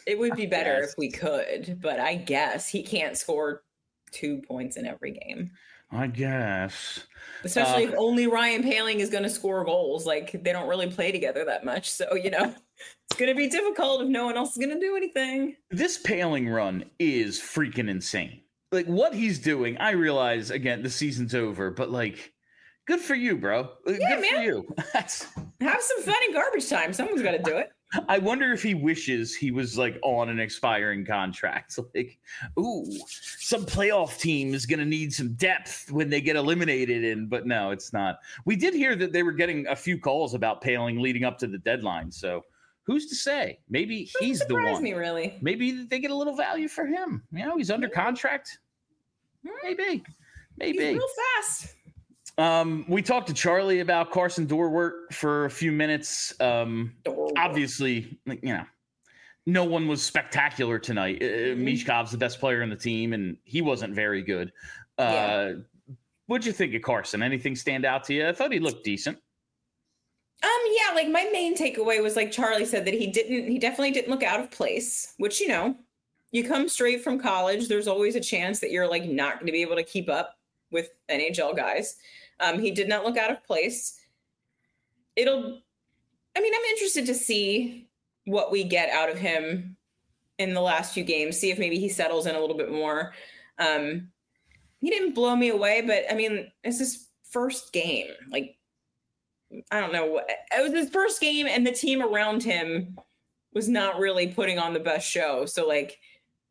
Speaker 2: It would be better
Speaker 1: Yes.
Speaker 2: if we could, but I guess he can't score two points in every game.
Speaker 1: I guess.
Speaker 2: Especially
Speaker 1: Uh,
Speaker 2: if only Ryan Paling is going to score goals. Like, they don't really play together that much. So, you know, it's going to be difficult if no one else is going to do anything.
Speaker 1: This Paling run is freaking insane. Like, what he's doing, I realize, again, the season's over, but, like, good for you, bro.
Speaker 2: Yeah,
Speaker 1: good for
Speaker 2: man.
Speaker 1: you. That's...
Speaker 2: Have some fun in garbage time. Someone's got to do it.
Speaker 1: I wonder if he wishes he was like on an expiring contract. Like, ooh, some playoff team is going to need some depth when they get eliminated. And but no, it's not. We did hear that they were getting a few calls about Paling leading up to the deadline. So who's to say? Maybe he's the one.
Speaker 2: Me, really.
Speaker 1: Maybe they get a little value for him. You know, he's under contract. Maybe, maybe.
Speaker 2: He's real fast.
Speaker 1: Um, we talked to Charlie about Carson Dorwart for a few minutes. Um, obviously, like, you know, no one was spectacular tonight. Uh,
Speaker 2: Mm-hmm.
Speaker 1: Mishkov's the best player on the team, and he wasn't very good. Uh,
Speaker 2: Yeah.
Speaker 1: What'd you think of Carson? Anything stand out to you? I thought he looked decent.
Speaker 2: Um, yeah, like my main takeaway was like Charlie said that he didn't, he definitely didn't look out of place, which, you know, you come straight from college. There's always a chance that you're like not going to be able to keep up with N H L guys. Um, he did not look out of place. It'll, I mean, I'm interested to see what we get out of him in the last few games, see if maybe he settles in a little bit more. Um, he didn't blow me away, but I mean, it's his first game. Like, I don't know what, it was his first game and the team around him was not really putting on the best show. So like,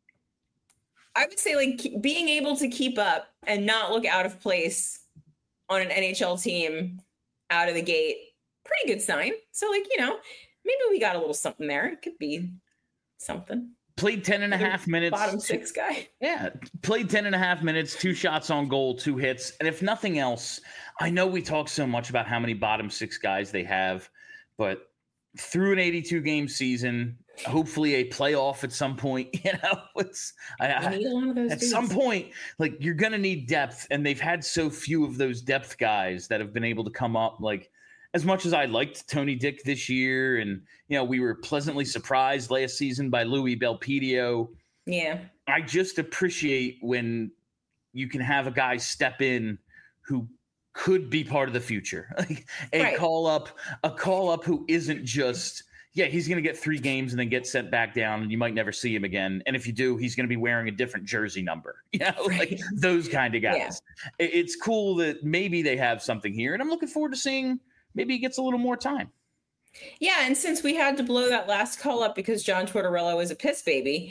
Speaker 2: I would say like being able to keep up and not look out of place on an N H L team out of the gate, pretty good sign. So like, you know, maybe we got a little something there. It could be something.
Speaker 1: Played ten and a half minutes.
Speaker 2: Bottom six guy.
Speaker 1: Yeah. Played ten and a half minutes, two shots on goal, two hits. And if nothing else, I know we talk so much about how many bottom six guys they have, but through an eighty-two game season, hopefully a playoff at some point, you know, it's I, I,
Speaker 2: need one of those
Speaker 1: at
Speaker 2: dudes.
Speaker 1: some point, like you're going to need depth. And they've had so few of those depth guys that have been able to come up. Like, as much as I liked Tony Dick this year, and, you know, we were pleasantly surprised last season by Louis Belpedio.
Speaker 2: Yeah.
Speaker 1: I just appreciate when you can have a guy step in who could be part of the future. Like a
Speaker 2: Right.
Speaker 1: call up, a call up who isn't just, yeah, he's going to get three games and then get sent back down and you might never see him again. And if you do, he's going to be wearing a different jersey number, you know,
Speaker 2: Right.
Speaker 1: like those kind of guys.
Speaker 2: Yeah.
Speaker 1: It- It's cool that maybe they have something here, and I'm looking forward to seeing maybe he gets a little more time.
Speaker 2: Yeah, and since we had to blow that last call up because John Tortorella was a piss baby,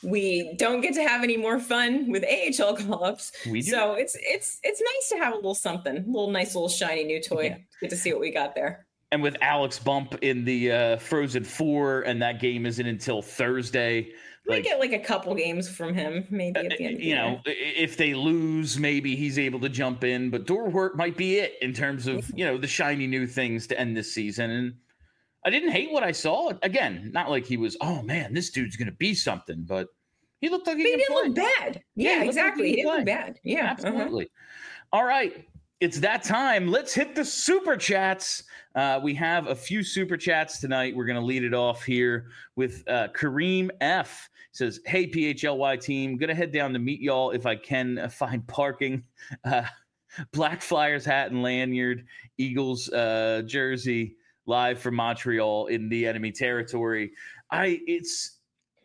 Speaker 2: we don't get to have any more fun with A H L call ups.
Speaker 1: We do.
Speaker 2: So it's it's it's nice to have a little something, a little nice little shiny new toy.
Speaker 1: Yeah.
Speaker 2: Get to see what we got there.
Speaker 1: And with Alex Bump in the uh, Frozen Four, and that game isn't until Thursday.
Speaker 2: We
Speaker 1: Like,
Speaker 2: get like a couple games from him, maybe at the end of the
Speaker 1: you
Speaker 2: year.
Speaker 1: know, i- if they lose, maybe he's able to jump in. But Dorwart might be it in terms of, you know, the shiny new things to end this season. And I didn't hate what I saw. Again, not like he was, oh man, this dude's going to be something, but he looked like he,
Speaker 2: But he
Speaker 1: could
Speaker 2: didn't
Speaker 1: play.
Speaker 2: look bad.
Speaker 1: Yeah,
Speaker 2: Yeah,
Speaker 1: he looked like
Speaker 2: exactly.
Speaker 1: he
Speaker 2: He
Speaker 1: could
Speaker 2: didn't look
Speaker 1: play.
Speaker 2: bad. Yeah, uh-huh.
Speaker 1: Absolutely. All right. It's that time. Let's hit the super chats. Uh, we have a few super chats tonight. We're going to lead it off here with uh, Kareem F. Says, hey, P H L Y team, going to head down to meet y'all if I can uh, find parking. Uh, Black Flyers hat and lanyard, Eagles uh, jersey, live from Montreal in the enemy territory. I it's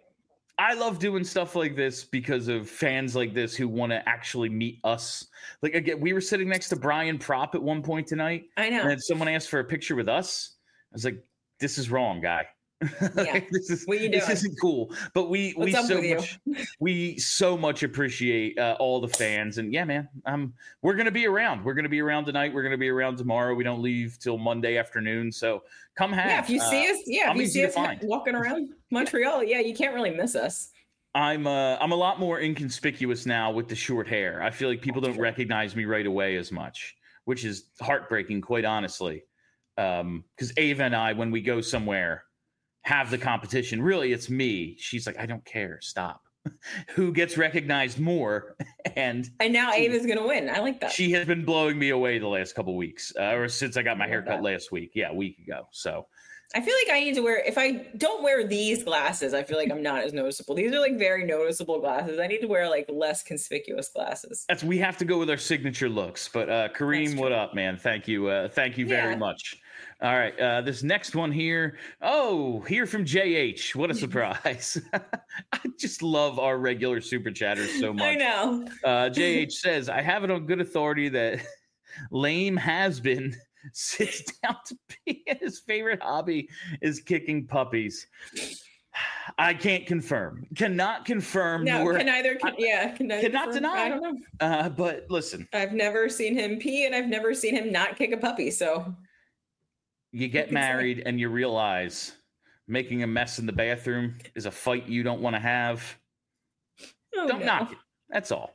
Speaker 1: I love doing stuff like this because of fans like this who want to actually meet us. Like, again, we were sitting next to Brian Propp at one point tonight,
Speaker 2: I know.
Speaker 1: and then someone asked for a picture with us. I was like, this is wrong, guy.
Speaker 2: Yeah.
Speaker 1: this is
Speaker 2: What you
Speaker 1: this
Speaker 2: doing?
Speaker 1: isn't cool. But we
Speaker 2: What's
Speaker 1: we
Speaker 2: up
Speaker 1: so
Speaker 2: with you?
Speaker 1: much we so much appreciate uh, all the fans. And yeah, man, um, we're gonna be around. We're gonna be around tonight. We're gonna be around tomorrow. We don't leave till Monday afternoon. So come hang.
Speaker 2: Yeah, if you see
Speaker 1: Uh,
Speaker 2: us, yeah, if
Speaker 1: I'm
Speaker 2: you
Speaker 1: easy
Speaker 2: see
Speaker 1: to
Speaker 2: us
Speaker 1: find.
Speaker 2: walking around Montreal, yeah, you can't really miss us.
Speaker 1: I'm uh, I'm a lot more inconspicuous now with the short hair. I feel like people don't
Speaker 2: Sure.
Speaker 1: recognize me right away as much, which is heartbreaking, quite honestly. Um, because Ava and I, when we go somewhere, have the competition. Really, it's me. She's like, I don't care. Stop. Who gets recognized more? And
Speaker 2: And now
Speaker 1: She-
Speaker 2: Ava's gonna win. I like that.
Speaker 1: she has been blowing me away the last couple weeks, uh, or since I got my
Speaker 2: I love
Speaker 1: haircut
Speaker 2: that.
Speaker 1: last week. Yeah, a week ago. So
Speaker 2: I feel like I need to wear, if I don't wear these glasses, I feel like I'm not as noticeable. These are like very noticeable glasses. I need to wear like less conspicuous glasses.
Speaker 1: That's, we have to go with our signature looks. But uh, Kareem, what up, man? Thank you. Uh, thank you very
Speaker 2: Yeah.
Speaker 1: much. All right. Uh, this next one here. Oh, here from J H. What a surprise. I just love our regular super chatters so much.
Speaker 2: I know.
Speaker 1: Uh, J H says, I have it on good authority that lame has been sits down to pee and his favorite hobby is kicking puppies. I can't confirm. Cannot confirm.
Speaker 2: No,
Speaker 1: nor,
Speaker 2: can neither, can, yeah. Can neither
Speaker 1: cannot
Speaker 2: confirm.
Speaker 1: deny.
Speaker 2: I don't know.
Speaker 1: Uh, but listen.
Speaker 2: I've never seen him pee and I've never seen him not kick a puppy. So
Speaker 1: you get married and you realize making a mess in the bathroom is a fight you don't want to have.
Speaker 2: oh,
Speaker 1: Don't
Speaker 2: no.
Speaker 1: knock it. That's all.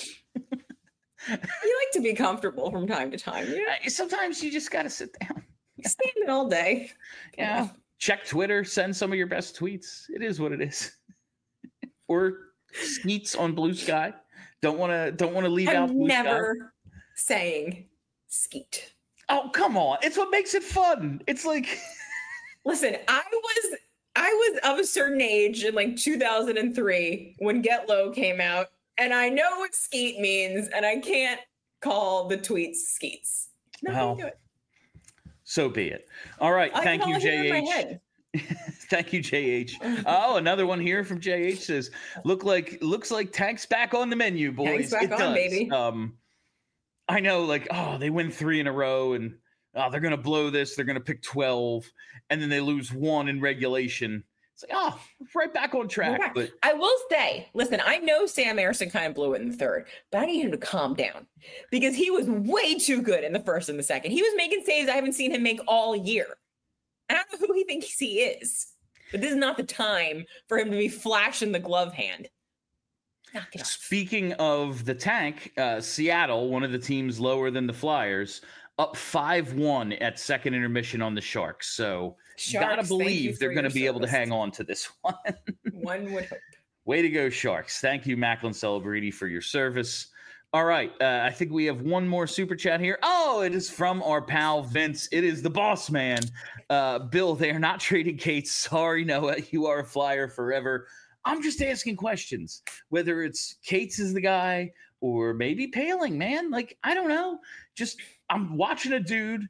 Speaker 2: You like to be comfortable from time to time. Yeah.
Speaker 1: Uh, Sometimes you just got to sit down.
Speaker 2: Standing all day.
Speaker 1: Yeah. Check Twitter. Send some of your best tweets. It is what it is. Or skeets on Blue Sky. Don't want to. Don't want to leave out
Speaker 2: I'm
Speaker 1: Blue
Speaker 2: never
Speaker 1: Sky.
Speaker 2: saying skeet.
Speaker 1: Oh, come on. It's what makes it fun. It's like.
Speaker 2: Listen, I was I was of a certain age in like two thousand three when Get Low came out, and I know what skeet means, and I can't call the tweets skeets. No,
Speaker 1: Well,
Speaker 2: do it.
Speaker 1: So be it. All right.
Speaker 2: I
Speaker 1: Thank
Speaker 2: can
Speaker 1: you,
Speaker 2: only hear it in my
Speaker 1: J H.
Speaker 2: head.
Speaker 1: Thank you, J H. Oh, another one here from J H says, "Look like looks like Tank's back on the menu, boys.
Speaker 2: Tank's back
Speaker 1: it
Speaker 2: on,
Speaker 1: does.
Speaker 2: baby.
Speaker 1: Um, I know, like, oh, they win three in a row, and oh, they're gonna blow this. They're gonna pick twelve, and then they lose one in regulation. It's like, oh, right back on track.
Speaker 2: back.
Speaker 1: But
Speaker 2: I will say, listen, I know Sam Emerson kind of blew it in the third, but I need him to calm down because he was way too good in the first and the second. He was making saves I haven't seen him make all year. I don't know who he thinks he is, but this is not the time for him to be flashing the glove hand. Knock it off.
Speaker 1: speaking of the Tank, uh, Seattle, one of the teams lower than the Flyers, up five one at second intermission on the Sharks. So
Speaker 2: Sharks,
Speaker 1: gotta
Speaker 2: thank you
Speaker 1: believe
Speaker 2: for
Speaker 1: they're going to
Speaker 2: your
Speaker 1: be able to
Speaker 2: service.
Speaker 1: hang on to this one.
Speaker 2: One would hope.
Speaker 1: Way to go, Sharks. Thank you, Macklin Celebrity, for your service. All right. Uh, I think we have one more super chat here. Oh, it is from our pal Vince. It is the boss man. Uh, Bill, they are not trading Cates. Sorry, Noah. You are a Flyer forever. I'm just asking questions. Whether it's Cates is the guy or maybe Paling, man. Like, I don't know. Just, I'm watching a dude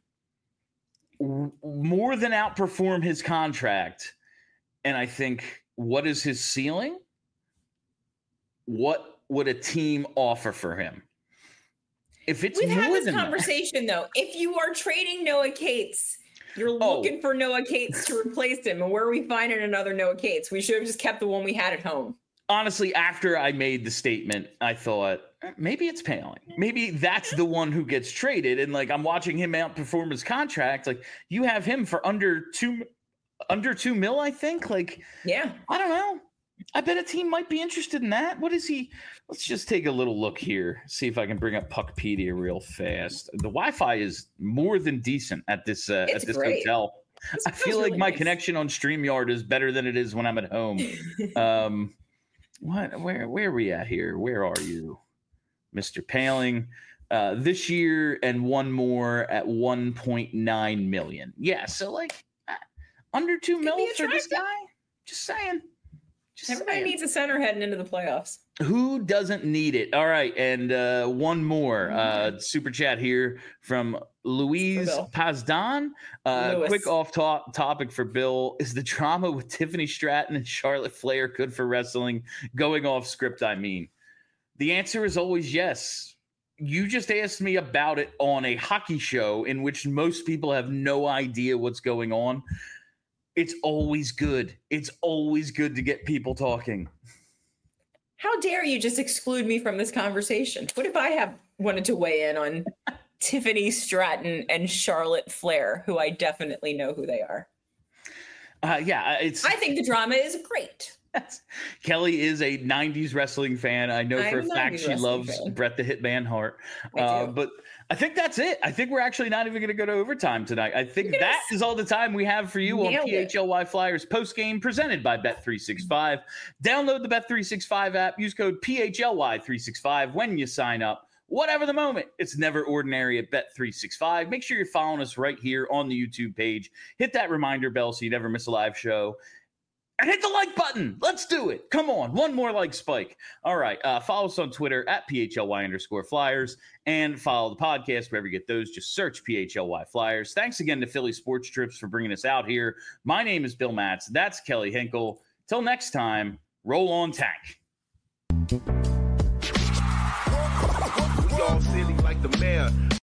Speaker 1: w- more than outperform his contract. And I think, what is his ceiling? What would a team offer for him? If it's
Speaker 2: We've
Speaker 1: more
Speaker 2: had this
Speaker 1: than that-
Speaker 2: conversation though. If you are trading Noah Cates, you're
Speaker 1: Oh.
Speaker 2: looking for Noah Cates to replace him. And where are we finding another Noah Cates? We should have just kept the one we had at home.
Speaker 1: honestly, after I made the statement, I thought eh, maybe it's Paling. Maybe that's the one who gets traded. And like I'm watching him outperform his contract. Like you have him for under two, under two mil, I think. Like
Speaker 2: Yeah.
Speaker 1: I don't know. I bet a team might be interested in that. What is he? Let's just take a little look here. See if I can bring up Puckpedia real fast. The Wi-Fi is more than decent at this uh, at
Speaker 2: It's
Speaker 1: this
Speaker 2: great.
Speaker 1: hotel.
Speaker 2: This
Speaker 1: I
Speaker 2: feels
Speaker 1: feel like
Speaker 2: really
Speaker 1: my
Speaker 2: nice.
Speaker 1: connection on StreamYard is better than it is when I'm at home. um, what? Where? Where are we at here? Where are you, Mister Paling? Uh, this year and one more at one point nine million. Yeah, so like uh, under two
Speaker 2: Could
Speaker 1: mil
Speaker 2: be
Speaker 1: for this
Speaker 2: attractive.
Speaker 1: guy. Just saying. Just
Speaker 2: Everybody
Speaker 1: saying.
Speaker 2: needs a center heading into the playoffs.
Speaker 1: Who doesn't need it? All right, and uh, one more uh, super chat here from Louise
Speaker 2: Bill.
Speaker 1: Pazdan. Uh,
Speaker 2: Lewis.
Speaker 1: quick off to- topic for Bill: is the drama with Tiffany Stratton and Charlotte Flair good for wrestling? Going off script, I mean. The answer is always yes. You just asked me about it on a hockey show in which most people have no idea what's going on. It's always good. It's always good to get people talking.
Speaker 2: How dare you just exclude me from this conversation? What if I have wanted to weigh in on Tiffany Stratton and Charlotte Flair, who I definitely know who they are?
Speaker 1: Uh, yeah, it's.
Speaker 2: I think the drama is great.
Speaker 1: Kelly is a nineties wrestling fan. I know
Speaker 2: I'm
Speaker 1: for a
Speaker 2: a
Speaker 1: fact
Speaker 2: nineties
Speaker 1: she
Speaker 2: wrestling
Speaker 1: loves
Speaker 2: fan.
Speaker 1: Bret the Hitman Hart.
Speaker 2: I
Speaker 1: Uh,
Speaker 2: do.
Speaker 1: but I think that's it. I think we're actually not even going to go to overtime tonight. I think
Speaker 2: Look at
Speaker 1: that
Speaker 2: us.
Speaker 1: is all the time we have for you on
Speaker 2: Nailed it.
Speaker 1: P H L Y Flyers post game presented by Bet three sixty-five. Download the Bet three sixty-five app. Use code P H L Y three sixty-five when you sign up. Whatever the moment, it's never ordinary at Bet three sixty-five. Make sure you're following us right here on the YouTube page. Hit that reminder bell so you never miss a live show. And hit the like button. Let's do it. Come on. One more like spike. All right. Uh, follow us on Twitter at P H L Y underscore Flyers and follow the podcast wherever you get those. Just search P H L Y Flyers. Thanks again to Philly Sports Trips for bringing us out here. My name is Bill Matz. That's Kelly Hinkle. Till next time, roll on Tank.
Speaker 4: We all silly like the mayor.